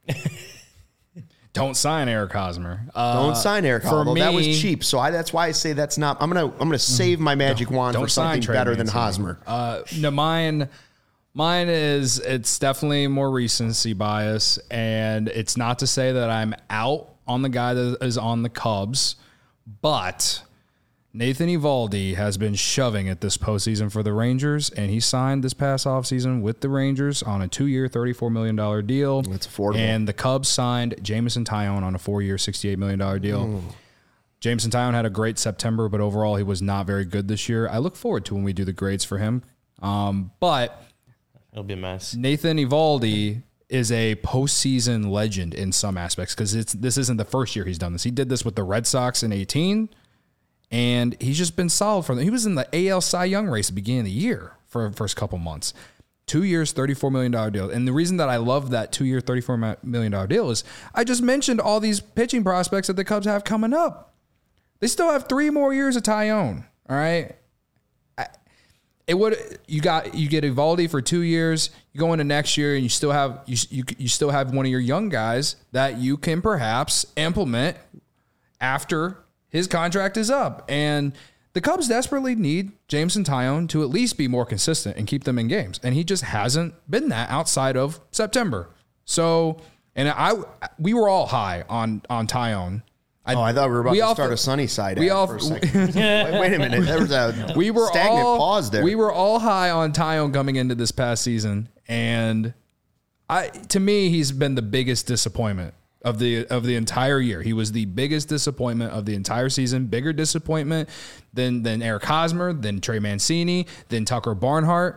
Don't sign Eric Hosmer. Uh, Don't sign Eric. for Although me, that was cheap, so I, that's why I say that's not. I'm gonna I'm gonna save my Magic Wand don't for sign something Trey better than Mancini. Hosmer. Uh, no, mine, mine is it's definitely more recency bias, and it's not to say that I'm out on the guy that is on the Cubs, but Nathan Eovaldi has been shoving it this postseason for the Rangers, and he signed this past offseason with the Rangers on a two-year, thirty-four million dollars deal. That's affordable. And the Cubs signed Jameson Taillon on a four-year, sixty-eight million dollars deal. Mm. Jameson Taillon had a great September, but overall he was not very good this year. I look forward to when we do the grades for him. Um, but It'll be a mess. Nathan Eovaldi is a postseason legend in some aspects because it's this isn't the first year he's done this. He did this with the Red Sox in eighteen. And he's just been solid for them. He was in the A L Cy Young race at the beginning of the year for the first couple months. Two years, thirty-four million dollars deal. And the reason that I love that two-year, thirty-four million dollars deal is I just mentioned all these pitching prospects that the Cubs have coming up. They still have three more years of Taillon, all right? I, it would you got you get Eovaldi for two years. You go into next year and you still have you you you still have one of your young guys that you can perhaps implement after his contract is up. And the Cubs desperately need Jameson Taillon to at least be more consistent and keep them in games. And he just hasn't been that outside of September. So, and I, we were all high on, on Taillon. I, oh, I thought we were about we to all, start a sunny side we ad all, for a second. wait, wait a minute. There was a we were stagnant all, pause there. We were all high on Taillon coming into this past season. And I, to me, he's been the biggest disappointment of the of the entire year. He was the biggest disappointment of the entire season, bigger disappointment than than Eric Hosmer, than Trey Mancini, than Tucker Barnhart.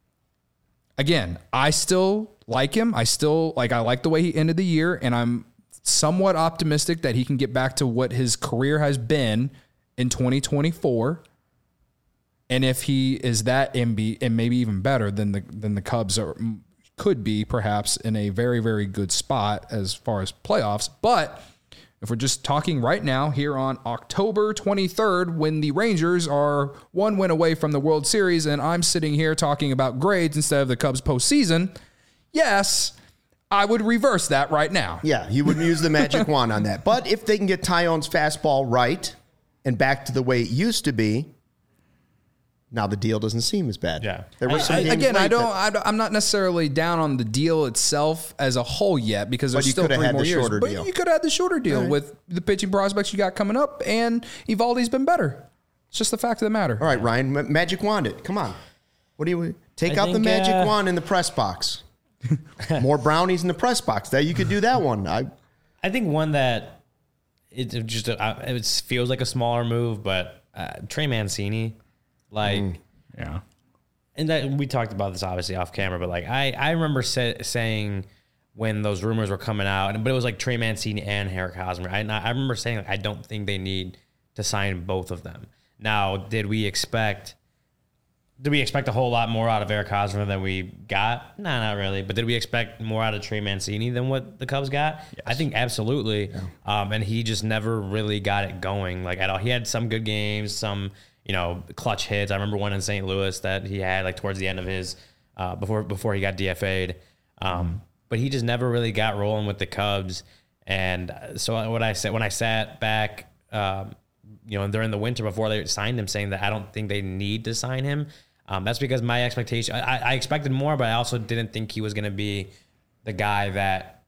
Again, I still like him. I still like I like the way he ended the year, and I'm somewhat optimistic that he can get back to what his career has been in twenty twenty-four. And if he is that M B and maybe even better than the than the Cubs are could be perhaps in a very, very good spot as far as playoffs. But if we're just talking right now here on October twenty-third, when the Rangers are one win away from the World Series, and I'm sitting here talking about grades instead of the Cubs postseason, yes, I would reverse that right now. Yeah, you wouldn't use the magic wand on that. But if they can get Taillon's fastball right and back to the way it used to be, now the deal doesn't seem as bad. Yeah. There were some I, games again, I late don't. that- I don't I'm not necessarily down on the deal itself as a whole yet because there's But you still coulda three had more the years. shorter But deal. you could have had the shorter deal with the pitching prospects you got coming up, and Evaldi's been better. It's just the fact of the matter. All right, Ryan, ma- magic wand it. Come on. What do you take I out the think, magic uh, wand in the press box? More brownies in the press box. That you could do that one. I I think one that it it just uh, it feels like a smaller move, but uh, Trey Mancini, like, Yeah. and that, we talked about this obviously off camera, but like I I remember say, saying when those rumors were coming out, and but it was like Trey Mancini and Eric Hosmer. I I remember saying like I don't think they need to sign both of them. Now, did we expect did we expect a whole lot more out of Eric Hosmer than we got? No, not really. But did we expect more out of Trey Mancini than what the Cubs got? Yes. I think absolutely. Yeah. Um, and he just never really got it going like at all. He had some good games, some, you know, clutch hits. I remember one in Saint Louis that he had like towards the end of his uh, before before he got D F A'd. Um, mm. But he just never really got rolling with the Cubs. And so what I said when I sat back, um, you know, during the winter before they signed him, saying that I don't think they need to sign him. Um, that's because my expectation, I, I expected more, but I also didn't think he was going to be the guy that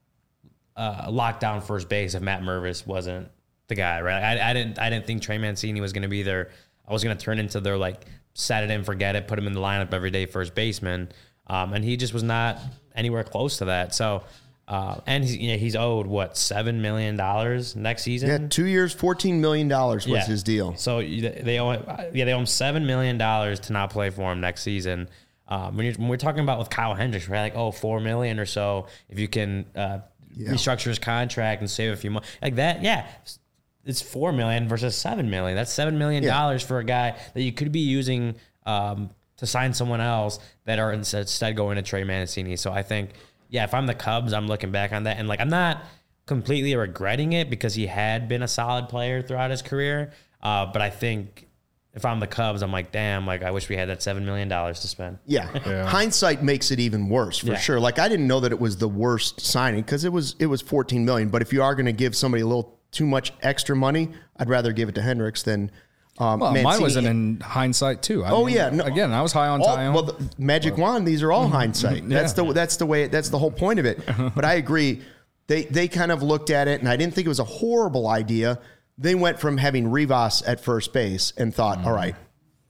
uh, locked down first base if Matt Mervis wasn't the guy, right? I, I didn't, I didn't think Trey Mancini was going to be their. I was going to turn into their like set it and forget it, put him in the lineup every day first baseman, um, and he just was not anywhere close to that. So. Uh, and he's, you know, he's owed what seven million dollars next season. Yeah, two years, fourteen million dollars was yeah. his deal. So they owe, yeah, they owe him seven million dollars to not play for him next season. Um, when, you're, when we're talking about with Kyle Hendricks, we're like, oh, four million or so if you can uh, yeah. restructure his contract and save a few more like that. Yeah, it's four million versus seven million. That's seven million dollars yeah. for a guy that you could be using um, to sign someone else that are instead going to Trey Mancini. So I think. Yeah, if I'm the Cubs, I'm looking back on that. And, like, I'm not completely regretting it because he had been a solid player throughout his career. Uh, but I think if I'm the Cubs, I'm like, damn, like, I wish we had that seven million dollars to spend. Yeah. yeah. Hindsight makes it even worse, for yeah. sure. Like, I didn't know that it was the worst signing because it was it was fourteen million dollars. But if you are going to give somebody a little too much extra money, I'd rather give it to Hendricks than Um, well, mine wasn't in hindsight too. I oh mean, yeah, no, again, I was high on all, Taillon. Well, the Magic well, Wand, these are all hindsight. Yeah. That's the that's the way. That's the whole point of it. But I agree. They they kind of looked at it, and I didn't think it was a horrible idea. They went from having Rivas at first base and thought, mm. all right,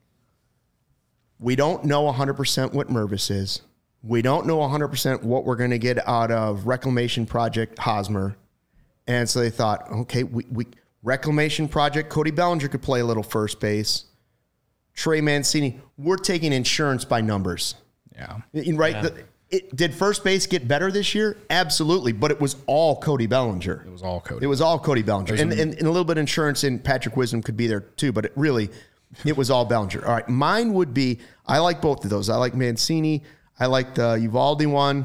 we don't know one hundred percent what Mervis is. We don't know one hundred percent what we're going to get out of Reclamation Project Hosmer. And so they thought, okay, we we. Reclamation Project, Cody Bellinger could play a little first base. Trey Mancini, we're taking insurance by numbers. Yeah. Right? Yeah. The, it, did first base get better this year? Absolutely. But it was all Cody Bellinger. It was all Cody. It was all Cody Bellinger. And, and, and a little bit of insurance in Patrick Wisdom could be there too, but it really, it was all Bellinger. All right. Mine would be, I like both of those. I like Mancini. I like the Uvalde one.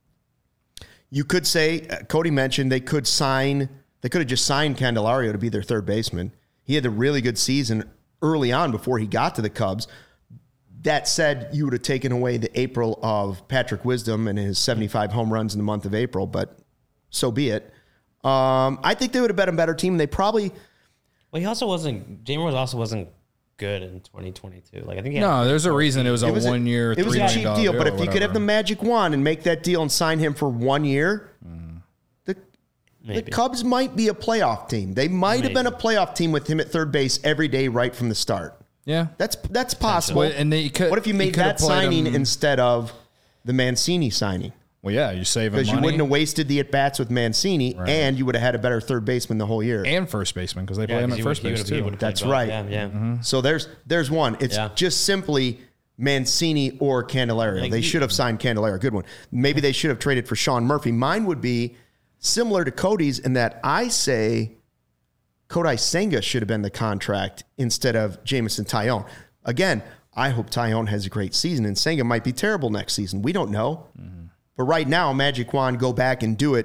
You could say, uh, Cody mentioned they could sign... They could have just signed Candelario to be their third baseman. He had a really good season early on before he got to the Cubs. That said, you would have taken away the April of Patrick Wisdom and his seventy-five home runs in the month of April, but so be it. Um, I think they would have been a better team. They probably... Well, he also wasn't... Jamer also wasn't good in twenty twenty-two. Like I think he no, there's a reason it was a one-year, It was a cheap deal, but if you could have the magic wand and make that deal and sign him for one year... Mm. Maybe. The Cubs might be a playoff team. They might Maybe. have been a playoff team with him at third base every day right from the start. Yeah. That's that's possible. Well, and they could, what if you made that signing him. instead of the Mancini signing? Well, yeah, you're saving money. Because you wouldn't have wasted the at-bats with Mancini, right. and you would have had a better third baseman the whole year. And first baseman, because they play yeah, him at first base, too. That's right. Yeah, yeah. Mm-hmm. So there's there's one. It's yeah. just simply Mancini or Candelario. Like they should have signed Candelario. Good one. Maybe they should have traded for Sean Murphy. Mine would be... similar to Cody's in that I say Kodai Senga should have been the contract instead of Jameson Taillon. Again, I hope Taillon has a great season and Senga might be terrible next season. We don't know. Mm-hmm. But right now, Magic Wand, go back and do it.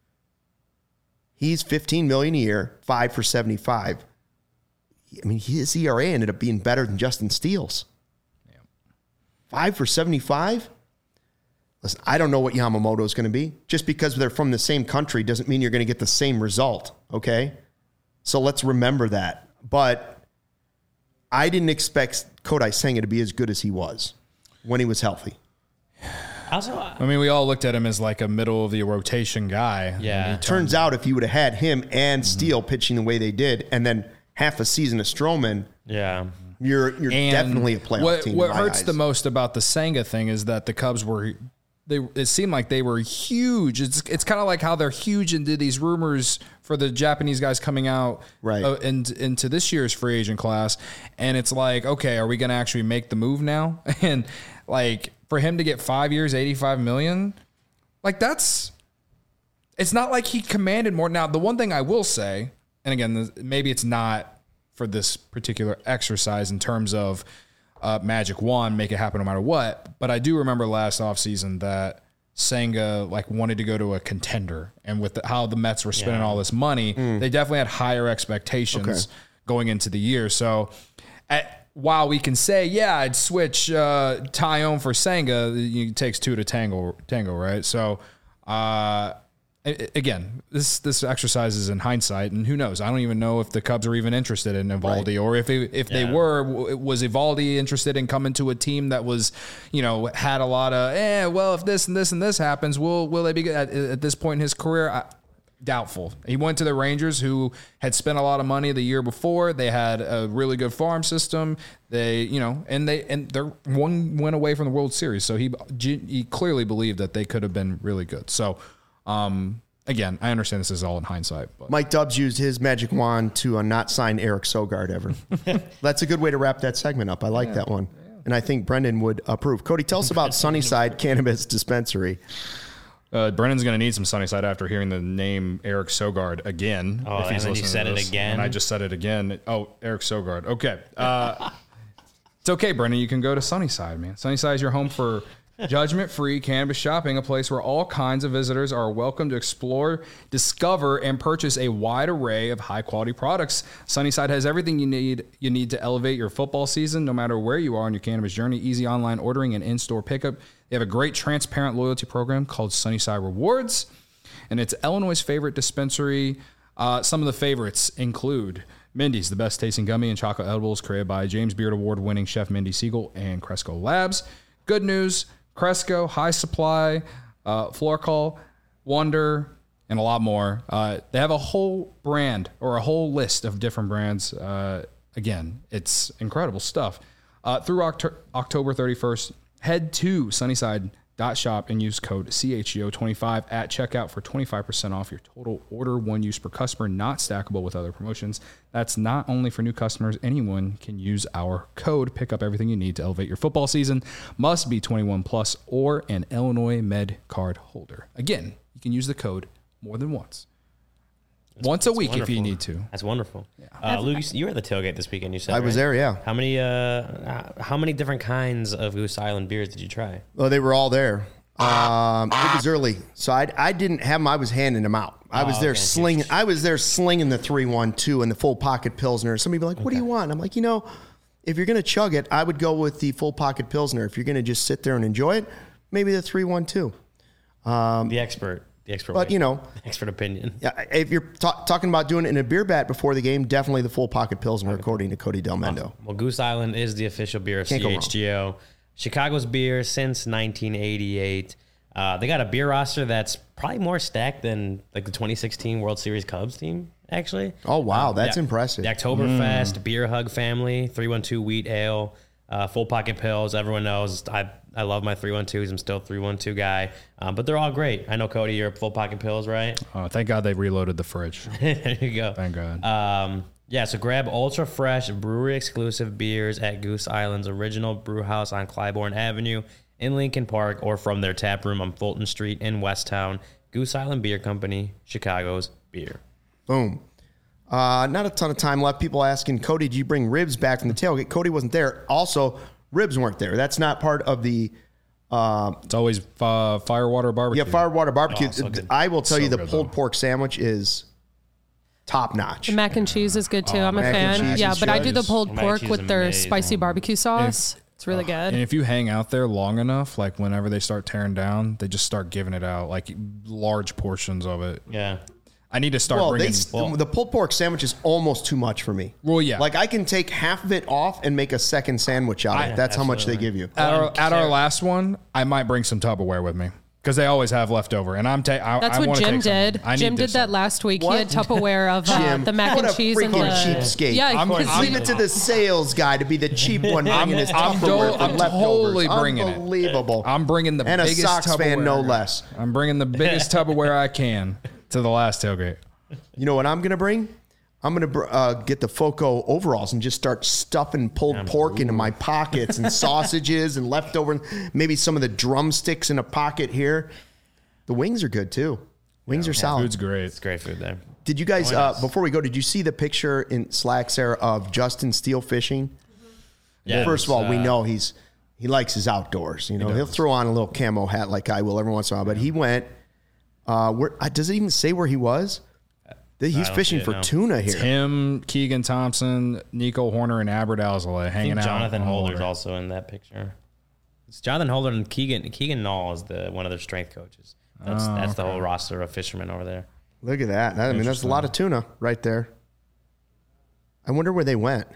He's fifteen million dollars a year, five for seventy-five. I mean, his E R A ended up being better than Justin Steele's. Yeah. Five for seventy-five? Listen, I don't know what Yamamoto is going to be. Just because they're from the same country doesn't mean you're going to get the same result, okay? So let's remember that. But I didn't expect Kodai Senga to be as good as he was when he was healthy. Also, uh, I mean, we all looked at him as like a middle of the rotation guy. Yeah. Turns out if you would have had him and Steele mm-hmm. pitching the way they did, and then half a season of Stroman, yeah, you're you're and definitely a playoff what, team. What hurts eyes. the most about the Senga thing is that the Cubs were. They, it seemed like they were huge. It's it's kind of like how they're huge into these rumors for the Japanese guys coming out right. uh, and, into this year's free agent class. And it's like, okay, are we going to actually make the move now? And like for him to get five years, eighty-five million, like that's, it's not like he commanded more. Now, the one thing I will say, and again, maybe it's not for this particular exercise in terms of uh, magic wand, make it happen no matter what. But I do remember last offseason that Senga like wanted to go to a contender, and with the, how the Mets were spending yeah. all this money, mm. they definitely had higher expectations okay. going into the year. So at, while we can say, yeah, I'd switch uh, Taillon for Senga, it takes two to tango, tango, right? So uh, again, this this exercise is in hindsight, and who knows? I don't even know if the Cubs are even interested in Eovaldi, right. or if it, if yeah. they were, was Eovaldi interested in coming to a team that was, you know, had a lot of, eh, well, if this and this and this happens, will will they be good at, at this point in his career? I, doubtful. He went to the Rangers, who had spent a lot of money the year before. They had a really good farm system. They, you know, and they and they're one went away from the World Series, so he he clearly believed that they could have been really good. So. Um, again, I understand this is all in hindsight. But. Mike Dubs used his magic wand to uh, not sign Eric Sogard ever. That's a good way to wrap that segment up. I like yeah. that one. Yeah. And I think Brendan would approve. Cody, tell us about Sunnyside Cannabis Dispensary. Uh, Brendan's going to need some Sunnyside after hearing the name Eric Sogard again. Oh, if he's and then you said it again. And I just said it again. Oh, Eric Sogard. Okay. Uh, it's okay, Brendan. You can go to Sunnyside, man. Sunnyside is your home for judgment-free cannabis shopping, a place where all kinds of visitors are welcome to explore, discover, and purchase a wide array of high-quality products. Sunnyside has everything you need you need to elevate your football season, no matter where you are on your cannabis journey. Easy online ordering and in-store pickup. They have a great transparent loyalty program called Sunnyside Rewards, and it's Illinois' favorite dispensary. Uh, some of the favorites include Mindy's, the best tasting gummy and chocolate edibles created by James Beard Award-winning chef Mindy Siegel and Cresco Labs. Good news, Cresco, High Supply, uh, Florcall, Wonder, and a lot more. Uh, they have a whole brand or a whole list of different brands. Uh, again, it's incredible stuff. Uh, through Oct- October thirty-first, head to Sunnyside dot shop and use code C H G O twenty-five at checkout for twenty-five percent off your total order. One use per customer, not stackable with other promotions. That's not only for new customers. Anyone can use our code. Pick up everything you need to elevate your football season. Must be twenty-one plus or an Illinois Med card holder. Again, you can use the code more than once. That's, once a week wonderful. If you need to. That's wonderful. Yeah. Uh, Luke, you were at the tailgate this weekend. You said I right? was there. Yeah. How many? Uh, how many different kinds of Goose Island beers did you try? Oh, they were all there. Um, it was early, so I I didn't have them. I was handing them out. I was oh, there okay. slinging. I was there slinging the three one two and the full pocket Pilsner. Somebody be like, "What okay. do you want?" I'm like, you know, if you're gonna chug it, I would go with the full pocket Pilsner. If you're gonna just sit there and enjoy it, maybe the three one two. Um, the expert. The expert, but way. you know, expert opinion. Yeah, if you're ta- talking about doing it in a beer bat before the game, definitely the full pocket Pilsner, pocket according to Cody Del Mendo. Awesome. Well, Goose Island is the official beer of Can't C H G O, Chicago's beer since nineteen eighty-eight. Uh, they got a beer roster that's probably more stacked than like the twenty sixteen World Series Cubs team. Actually. Oh wow, um, that's the, impressive. The Oktoberfest mm. Beer Hug family, three one two Wheat Ale, uh, full pocket pills. Everyone knows I. I love my three one twos. I'm still a three one two guy, um, but they're all great. I know, Cody, you're full pocket pills, right? Oh, thank God they reloaded the fridge. There you go. Thank God. Um, yeah, so grab ultra fresh brewery exclusive beers at Goose Island's original brew house on Clybourne Avenue in Lincoln Park, or from their tap room on Fulton Street in Westtown. Goose Island Beer Company, Chicago's beer. Boom. Uh, not a ton of time left. People asking, Cody, did you bring ribs back from the tailgate? Cody wasn't there. Also, ribs weren't there. That's not part of the... Uh, it's always uh, Firewater Barbecue. Yeah, Firewater Barbecue. Oh, so I will tell so you the good, pulled though. pork sandwich is top notch. The mac and cheese is good too. Oh, I'm a mac and fan. cheese Yeah, is but I do the good. pulled Mac and pork cheese with is their amazing. spicy barbecue sauce. It's really good. And if you hang out there long enough, like whenever they start tearing down, they just start giving it out, like large portions of it. Yeah. I need to start Well, bringing... they, well- the pulled pork sandwich is almost too much for me. Well, yeah. Like I can take half of it off and make a second sandwich out of I- it. That's how much they absolutely. give you. At our, Well, at our Sarah- last one, I might bring some Tupperware with me because they always have leftover, and I'm ta- I, That's I what wanna Jim take some. did. I Jim need did this that up. last week. What? He had Tupperware of uh, Jim, the mac what and a cheese and freaking the cheapskate. Yeah, I'm- because I'm- Leave it to the sales guy to be the cheap one bringing his I'm Tupperware do- for I'm leftovers. totally bringing it. Unbelievable. I'm bringing the And a biggest Sox Tupperware. fan, no less. I'm bringing the biggest Tupperware I can to the last tailgate. You know what I'm going to bring? I'm going to uh, get the Foco overalls and just start stuffing pulled Um, pork into my pockets and sausages and leftover, maybe some of the drumsticks in a pocket here. The wings are good too. Wings are solid. Food's great. It's great food there. Did you guys, Join uh, us. before we go, did you see the picture in Slack, Sarah, of Justin Steele fishing? Yeah, First of all, it's, we uh, know he's he likes his outdoors. You know, he will throw on a little camo hat like I will every once in a while. But he went. Uh, where uh, does it even say where he was? He's don't fishing see it, for no. tuna here. Tim, Keegan Thompson, Nico Horner, and Albert Alzolay I hanging think out. Jonathan on the Holder's water. also in that picture. It's Jonathan Holder and Keegan Keegan Knoll is the one of their strength coaches. That's Oh, that's the okay. whole roster of fishermen over there. Look at that. I mean, that's a lot of tuna right there. I wonder where they went.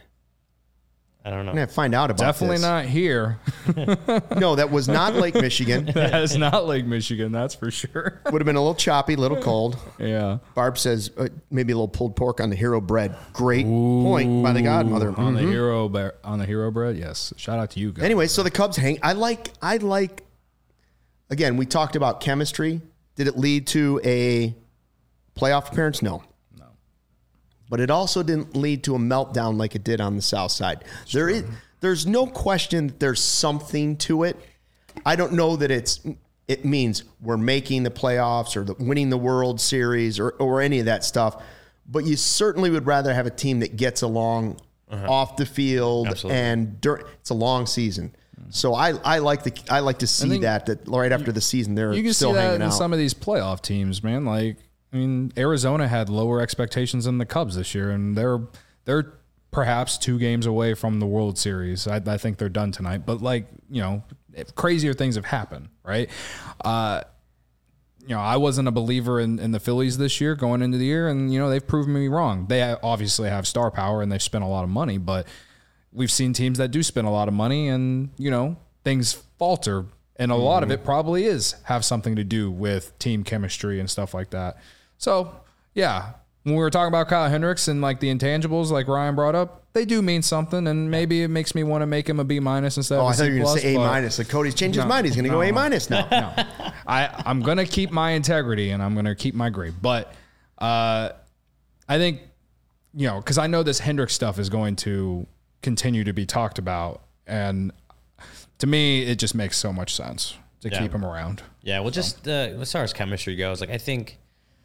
I don't know. I'm gonna find out about Definitely this. not here. No, that was not Lake Michigan. That is not Lake Michigan, that's for sure. Would have been a little choppy, a little cold. Yeah. Barb says uh, maybe a little pulled pork on the hero bread. Great point by the godmother. On the Mhm. hero bre- on the hero bread, yes. Shout out to you guys. Anyway, so the Cubs hang. I like. I like. Again, we talked about chemistry. Did it lead to a playoff appearance? No. No. But it also didn't lead to a meltdown like it did on the South Side. There is. There's no question that there's something to it. I don't know that it's. It means we're making the playoffs or the, winning the World Series or or any of that stuff. But you certainly would rather have a team that gets along off the field. Absolutely. And dur- it's a long season. So I, I like the I like to see think that that right after the season they're You can still see that hanging in out. some of these playoff teams, man. Like, I mean, Arizona had lower expectations than the Cubs this year, and they're they're perhaps two games away from the World Series. I, I think they're done tonight, but like, you know, if crazier things have happened, right? Uh, you know, I wasn't a believer in, in the Phillies this year going into the year, and you know they've proven me wrong. They obviously have star power and they've spent a lot of money, but we've seen teams that do spend a lot of money, and you know things falter. And a lot of it probably is have something to do with team chemistry and stuff like that. So, yeah, when we were talking about Kyle Hendricks and like the intangibles, like Ryan brought up, they do mean something, and maybe it makes me want to make him a B minus instead Oh, of a I thought C you were going plus. to say A but minus. Like Cody's changed his No, mind. He's going to no, go A no. minus now. No, I I'm gonna keep my integrity and I'm gonna keep my grade, but uh, I think you know because I know this Hendricks stuff is going to continue to be talked about, and to me, it just makes so much sense to Yeah. keep him around. Yeah, well, just uh, as far as chemistry goes, like I think,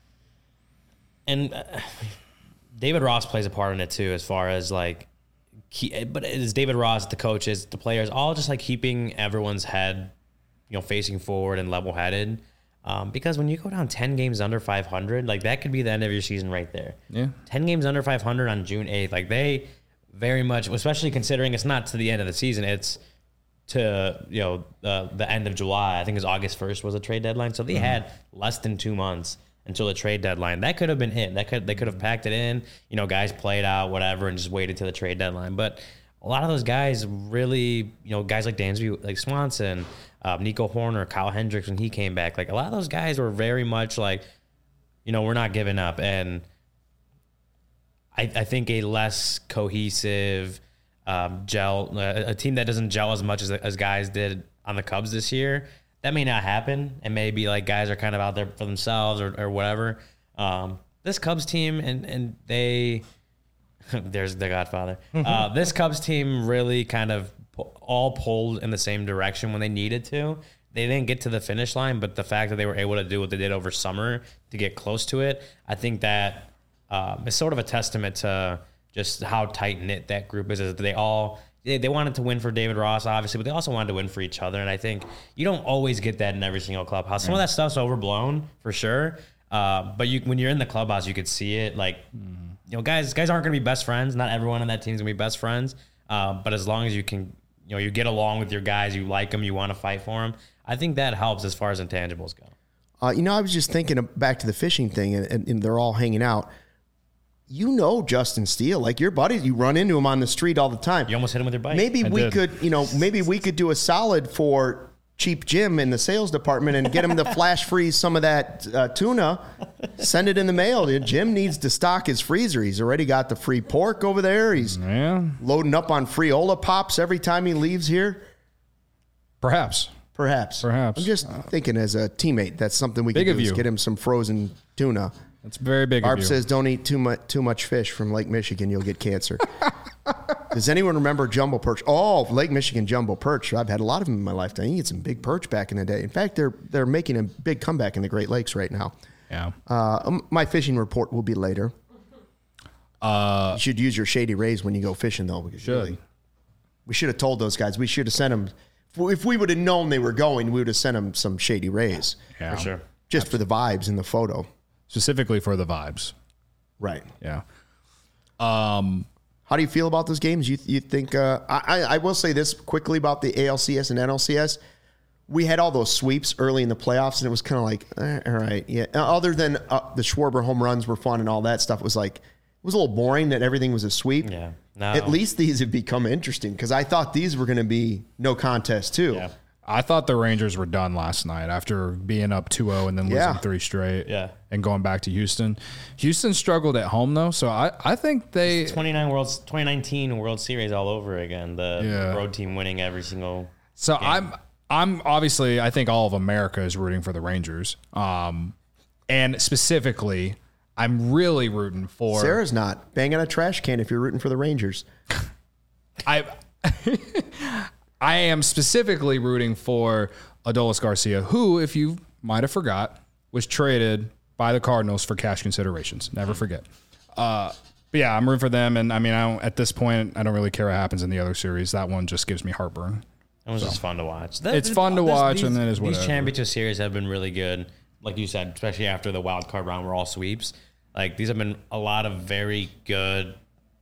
and uh, David Ross plays a part in it too, as far as like, he, but it's David Ross, the coaches, the players, all just like keeping everyone's head, you know, facing forward and level headed. Um, because when you go down ten games under five hundred, like that could be the end of your season right there. Yeah. ten games under five hundred on June eighth, like they very much, especially considering it's not to the end of the season, it's to, you know, uh, the end of July. I think it's August first was a trade deadline. So they Mm-hmm. had less than two months until the trade deadline. That could have been it. That could, they could have packed it in, you know, guys played out, whatever, and just waited till the trade deadline. But a lot of those guys really, you know, guys like Dansby, like Swanson, uh, Nico Horner, Kyle Hendricks, when he came back, like a lot of those guys were very much like, you know, we're not giving up. And I, I think a less cohesive um, gel, a, a team that doesn't gel as much as, as guys did on the Cubs this year, that may not happen. And maybe like guys are kind of out there for themselves or, or whatever. Um, this Cubs team, and, and they, there's the Godfather. Uh, this Cubs team really kind of pu- all pulled in the same direction when they needed to. They didn't get to the finish line, but the fact that they were able to do what they did over summer to get close to it, I think that um, is sort of a testament to just how tight knit that group is. Is that they all they, they wanted to win for David Ross, obviously, but they also wanted to win for each other. And I think you don't always get that in every single clubhouse. Some of that stuff's overblown for sure. Uh, but you, when you're in the clubhouse, you could see it. Like, you know, guys, guys aren't going to be best friends. Not everyone on that team's going to be best friends. Uh, but as long as you can, you know, you get along with your guys, you like them, you want to fight for them. I think that helps as far as intangibles go. Uh, you know, I was just thinking of back to the fishing thing, and, and, and they're all hanging out. You know Justin Steele, like your buddies, you run into him on the street all the time. You almost hit him with your bike. Maybe I we did. could, you know, maybe we could do a solid for Cheap Jim in the sales department and get him to flash freeze some of that uh, tuna. Send it in the mail. Jim needs to stock his freezer. He's already got the free pork over there. He's Yeah, loading up on Friola Pops every time he leaves here. perhaps. Perhaps. Perhaps. I'm just thinking as a teammate, that's something we Big could of do is you. get him some frozen tuna. That's very big Barb of you. says, don't eat too much too much fish from Lake Michigan. You'll get cancer. Does anyone remember jumbo perch? Oh, Lake Michigan jumbo perch. I've had a lot of them in my lifetime. You get some big perch back in the day. In fact, they're they're making a big comeback in the Great Lakes right now. Yeah. Uh, um, my fishing report will be later. Uh, you should use your Shady Rays when you go fishing, though. Because should. Really, we should have told those guys. We should have sent them. If we would have known they were going, we would have sent them some Shady Rays. Yeah. For sure. Just Absolutely. For the vibes in the photo. Specifically for the vibes. Right. Yeah. Um, How do you feel about those games? You you think? Uh, I I will say this quickly about the A L C S and N L C S. We had all those sweeps early in the playoffs, and it was kind of like, eh, all right, yeah. Other than uh, the Schwarber home runs were fun and all that stuff, it was like it was a little boring that everything was a sweep. Yeah. No. At least these have become interesting because I thought these were going to be no contest too. Yeah. I thought the Rangers were done last night after being up two oh and then losing Yeah. three straight Yeah. and going back to Houston. Houston struggled at home, though, so I, I think they... twenty-nine Worlds, twenty nineteen World Series all over again. The Yeah. road team winning every single So game. I'm I'm obviously, I think all of America is rooting for the Rangers. Um, and specifically, I'm really rooting for... Sarah's not. Bang on a trash can if you're rooting for the Rangers. I I am specifically rooting for Adolis Garcia, who, if you might have forgot, was traded by the Cardinals for cash considerations. Never forget. Uh, but yeah, I'm rooting for them, and I mean, I don't, at this point, I don't really care what happens in the other series. That one just gives me heartburn. It was so. just fun to watch. That, It's fun to this, watch, these, and then is whatever. These championship series have been really good. Like you said, especially after the wild card round were all sweeps. Like these have been a lot of very good,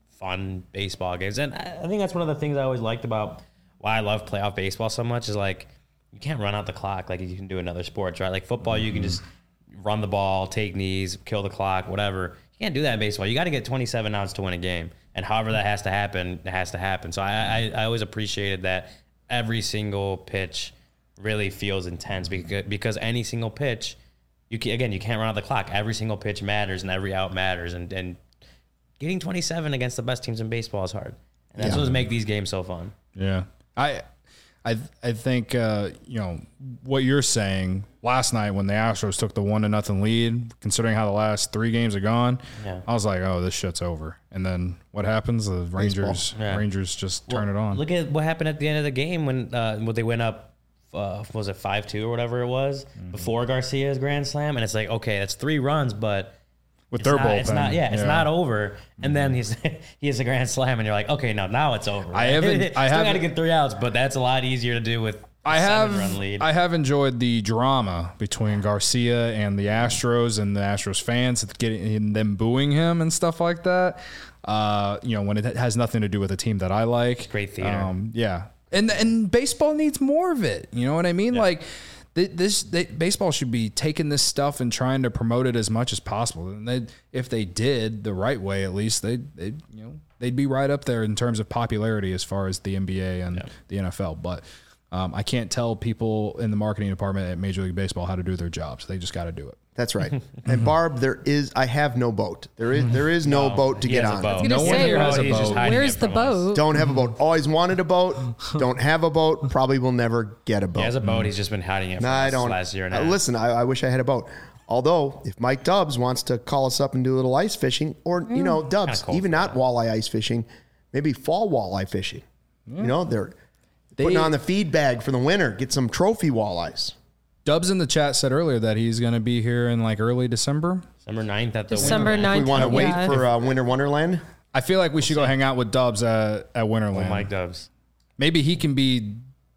fun baseball games. And I think that's one of the things I always liked about why I love playoff baseball so much is like you can't run out the clock like you can do in other sports, right? Like football, mm-hmm. you can just run the ball, take knees, kill the clock, whatever. You can't do that in baseball. You got to get twenty-seven outs to win a game. And however that has to happen, it has to happen. So I, I, I always appreciated that every single pitch really feels intense because, because any single pitch, you can, again, you can't run out the clock. Every single pitch matters and every out matters. And, and getting twenty-seven against the best teams in baseball is hard. And that's Yeah. what makes these games so fun. Yeah. I I I think uh, you know, what you're saying last night when the Astros took the one to nothing lead, considering how the last three games are gone, Yeah. I was like, oh, this shit's over. And then what happens? The Rangers Yeah. Rangers just turn it on. Look at what happened at the end of the game when uh, when they went up, uh, was it five two or whatever it was, Mm-hmm. before Garcia's grand slam. And it's like, okay, that's three runs, but With it's their not, bullpen. it's not, yeah, it's Yeah. not over. And then he's he has a grand slam, and you're like, okay, no, now it's over. I haven't- I Still got to haven't- get three outs, but that's a lot easier to do with a I have seven-run lead. I have enjoyed the drama between Garcia and the Astros and the Astros fans, getting them booing him and stuff like that. Uh, you know, when it has nothing to do with a team that I like. Great theater. Um, yeah, and and baseball needs more of it. You know what I mean? Yeah. Like th- this, they, baseball should be taking this stuff and trying to promote it as much as possible. And they, if they did the right way, at least they, they, you know, they'd be right up there in terms of popularity as far as the N B A and Yeah. the N F L. But Um, I can't tell people in the marketing department at Major League Baseball how to do their jobs. They just got to do it. That's right. And Barb, there is I have no boat. There is there is no, No, boat to he get has a on. boat. No No one one say, here has a He's just boat. hiding Where's it the from us. boat? Don't have a boat. Always wanted a boat. Don't have a boat. Probably will never get a boat. He has a boat. He's just been hiding it from Nah, I us don't. last year and a uh, half. listen, I, I wish I had a boat. Although, if Mike Dubs wants to call us up and do a little ice fishing, or you know, Dubs, Kinda cold even for not that. walleye ice fishing, maybe fall walleye fishing. You know, they're They- putting on the feed bag for the winter. Get some trophy walleyes. Dubs in the chat said earlier that he's going to be here in like early December. December ninth at the December Winter. ninth. We want to wait yeah. for uh, Winter Wonderland. I feel like we should go hang out with Dubs at, at Winterland. Oh, Mike Dubs. Maybe he can be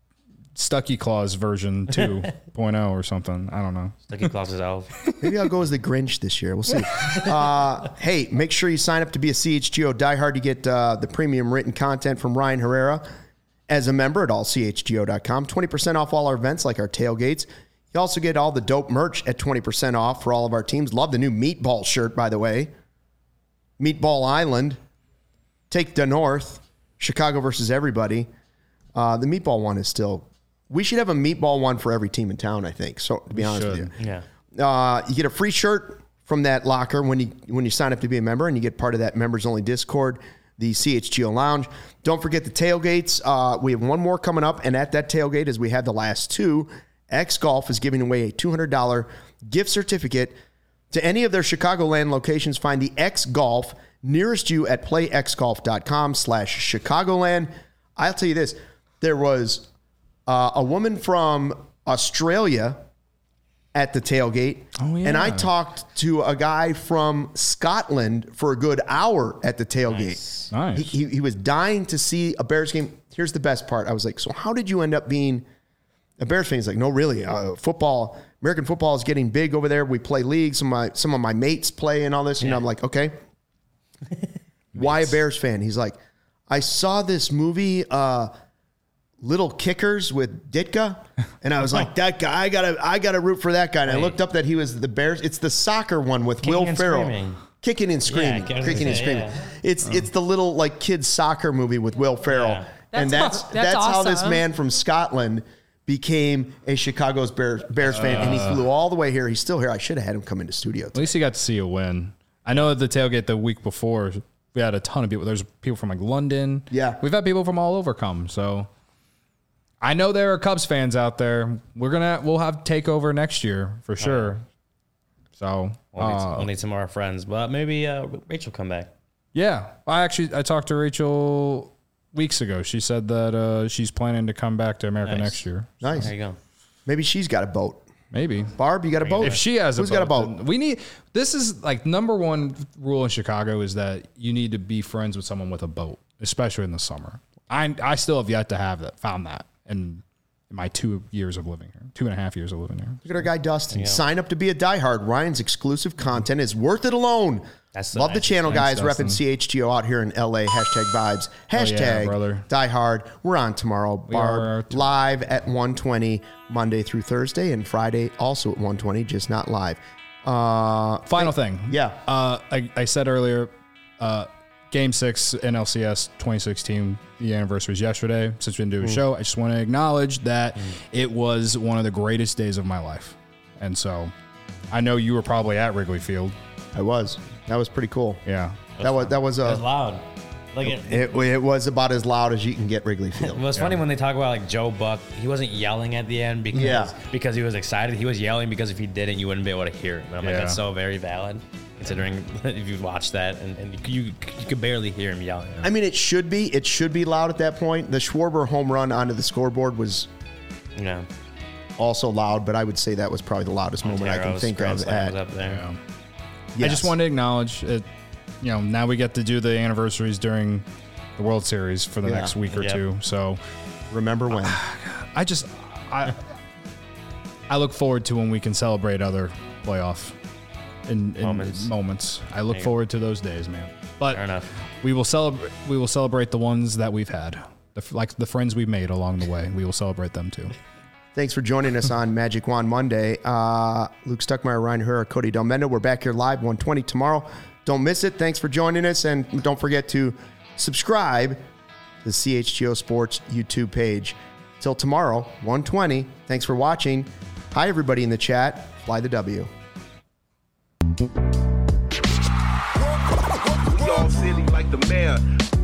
Stucky Claus version two point oh or something. I don't know. Lucky Claus's elf. Maybe I'll go as the Grinch this year. We'll see. Uh, hey, make sure you sign up to be a C H G O diehard to get uh, the premium written content from Ryan Herrera as a member at all c h g o dot com. twenty percent off all our events like our tailgates. You also get all the dope merch at twenty percent off for all of our teams. Love the new Meatball shirt, by the way. Meatball Island. Take the North. Chicago versus everybody. Uh, the Meatball one is still... We should have a Meatball one for every team in town, I think. So, to be honest with you. should. Yeah. Uh, you get a free shirt from that locker when you when you sign up to be a member, and you get part of that members only Discord, the C H G O Lounge. Don't forget the tailgates. Uh, we have one more coming up, and at that tailgate, as we had the last two, X Golf is giving away a two hundred dollars gift certificate to any of their Chicagoland locations. Find the X Golf nearest you at playxgolf.com slash Chicagoland. I'll tell you this: there was uh, a woman from Australia at the tailgate. Oh, yeah. And I talked to a guy from Scotland for a good hour at the tailgate. Nice. Nice. He, he, he was dying to see a Bears game. Here's the best part. I was like, so how did you end up being a Bears fan? He's like, no, really. Uh, football, American football is getting big over there. We play leagues. Some of my, some of my mates play and all this. And Yeah. I'm like, okay. Why a Bears fan? He's like, I saw this movie, uh, Little Kickers with Ditka, and I was like, that guy, I gotta, I gotta root for that guy. And I Wait. looked up that he was the Bears. It's the soccer one with Kicking Will and Ferrell, Screaming. kicking and screaming, Yeah, I was kicking gonna and say, screaming. yeah. It's it's the little like kids soccer movie with Will Ferrell, Yeah. and That's that's aw- that's, that's how this awesome. man from Scotland became a Chicago's Bears Bears fan, and he flew all the way here. He's still here. I should have had him come into studio. At least you got to see a win. I know at the tailgate the week before, we had a ton of people. There's people from like London. Yeah. We've had people from all over come. So I know there are Cubs fans out there. We're going to, we'll have takeover next year for sure. So, We'll need, uh, we'll need some more friends, but maybe uh, Rachel come back. yeah. I actually, I talked to Rachel weeks ago. She said that uh, she's planning to come back to America Nice. next year. Nice. There you go. Maybe she's got a boat. Maybe. Barb, you got a boat? If she has a Who's boat, got a boat? then we need, this is like number one rule in Chicago is that you need to be friends with someone with a boat, especially in the summer. I I still have yet to have that, found that in, in my two years of living here, two and a half years of living here. Look at our guy Dustin. Sign up to be a diehard. Ryan's exclusive content is worth it alone. That's the Love the nice- channel, Thanks, guys. Dustin. Repping C H G O out here in L A. Hashtag vibes. yeah, Hashtag brother. diehard. We're on tomorrow. Barb are t- live at one twenty Monday through Thursday, and Friday also at one twenty, just not live. Uh, Final thing. Yeah. Uh, I, I said earlier, uh, Game six N L C S twenty sixteen, the anniversary is yesterday. Since we didn't do a show, I just want to acknowledge that it was one of the greatest days of my life. And so I know you were probably at Wrigley Field. I was. That was pretty cool. Yeah. That was that was It was a. loud. Like it, It, it was about as loud as you can get Wrigley Field. It was funny when they talk about like Joe Buck. He wasn't yelling at the end because Yeah. because he was excited. He was yelling because if he didn't, you wouldn't be able to hear him. And I'm like, Yeah. that's so very valid, considering if you watch that and, and you you could barely hear him yelling. I mean, it should be. It should be loud at that point. The Schwarber home run onto the scoreboard was You know, also loud, but I would say that was probably the loudest moment I can Montero's think grand of. slam was At, up there. Yeah. I yes. just wanted to acknowledge it. You know, now we get to do the anniversaries during the World Series for the Yeah. next week or Yep. two. So remember when. I just, I, I look forward to when we can celebrate other playoff in, in Moments. moments. I look There you forward to those days, man. But Fair enough. we will celebrate. We will celebrate the ones that we've had, the, f- like the friends we've made along the way. We will celebrate them too. Thanks for joining us on Magic Wand Monday. Uh, Luke Stuckmeyer, Ryan Herrera, Cody Delmendo. We're back here live one twenty tomorrow. Don't miss it. Thanks for joining us. And don't forget to subscribe to the C H G O Sports YouTube page. Till tomorrow, one twenty. Thanks for watching. Hi, everybody in the chat. Fly the W. Y'all silly like the mayor.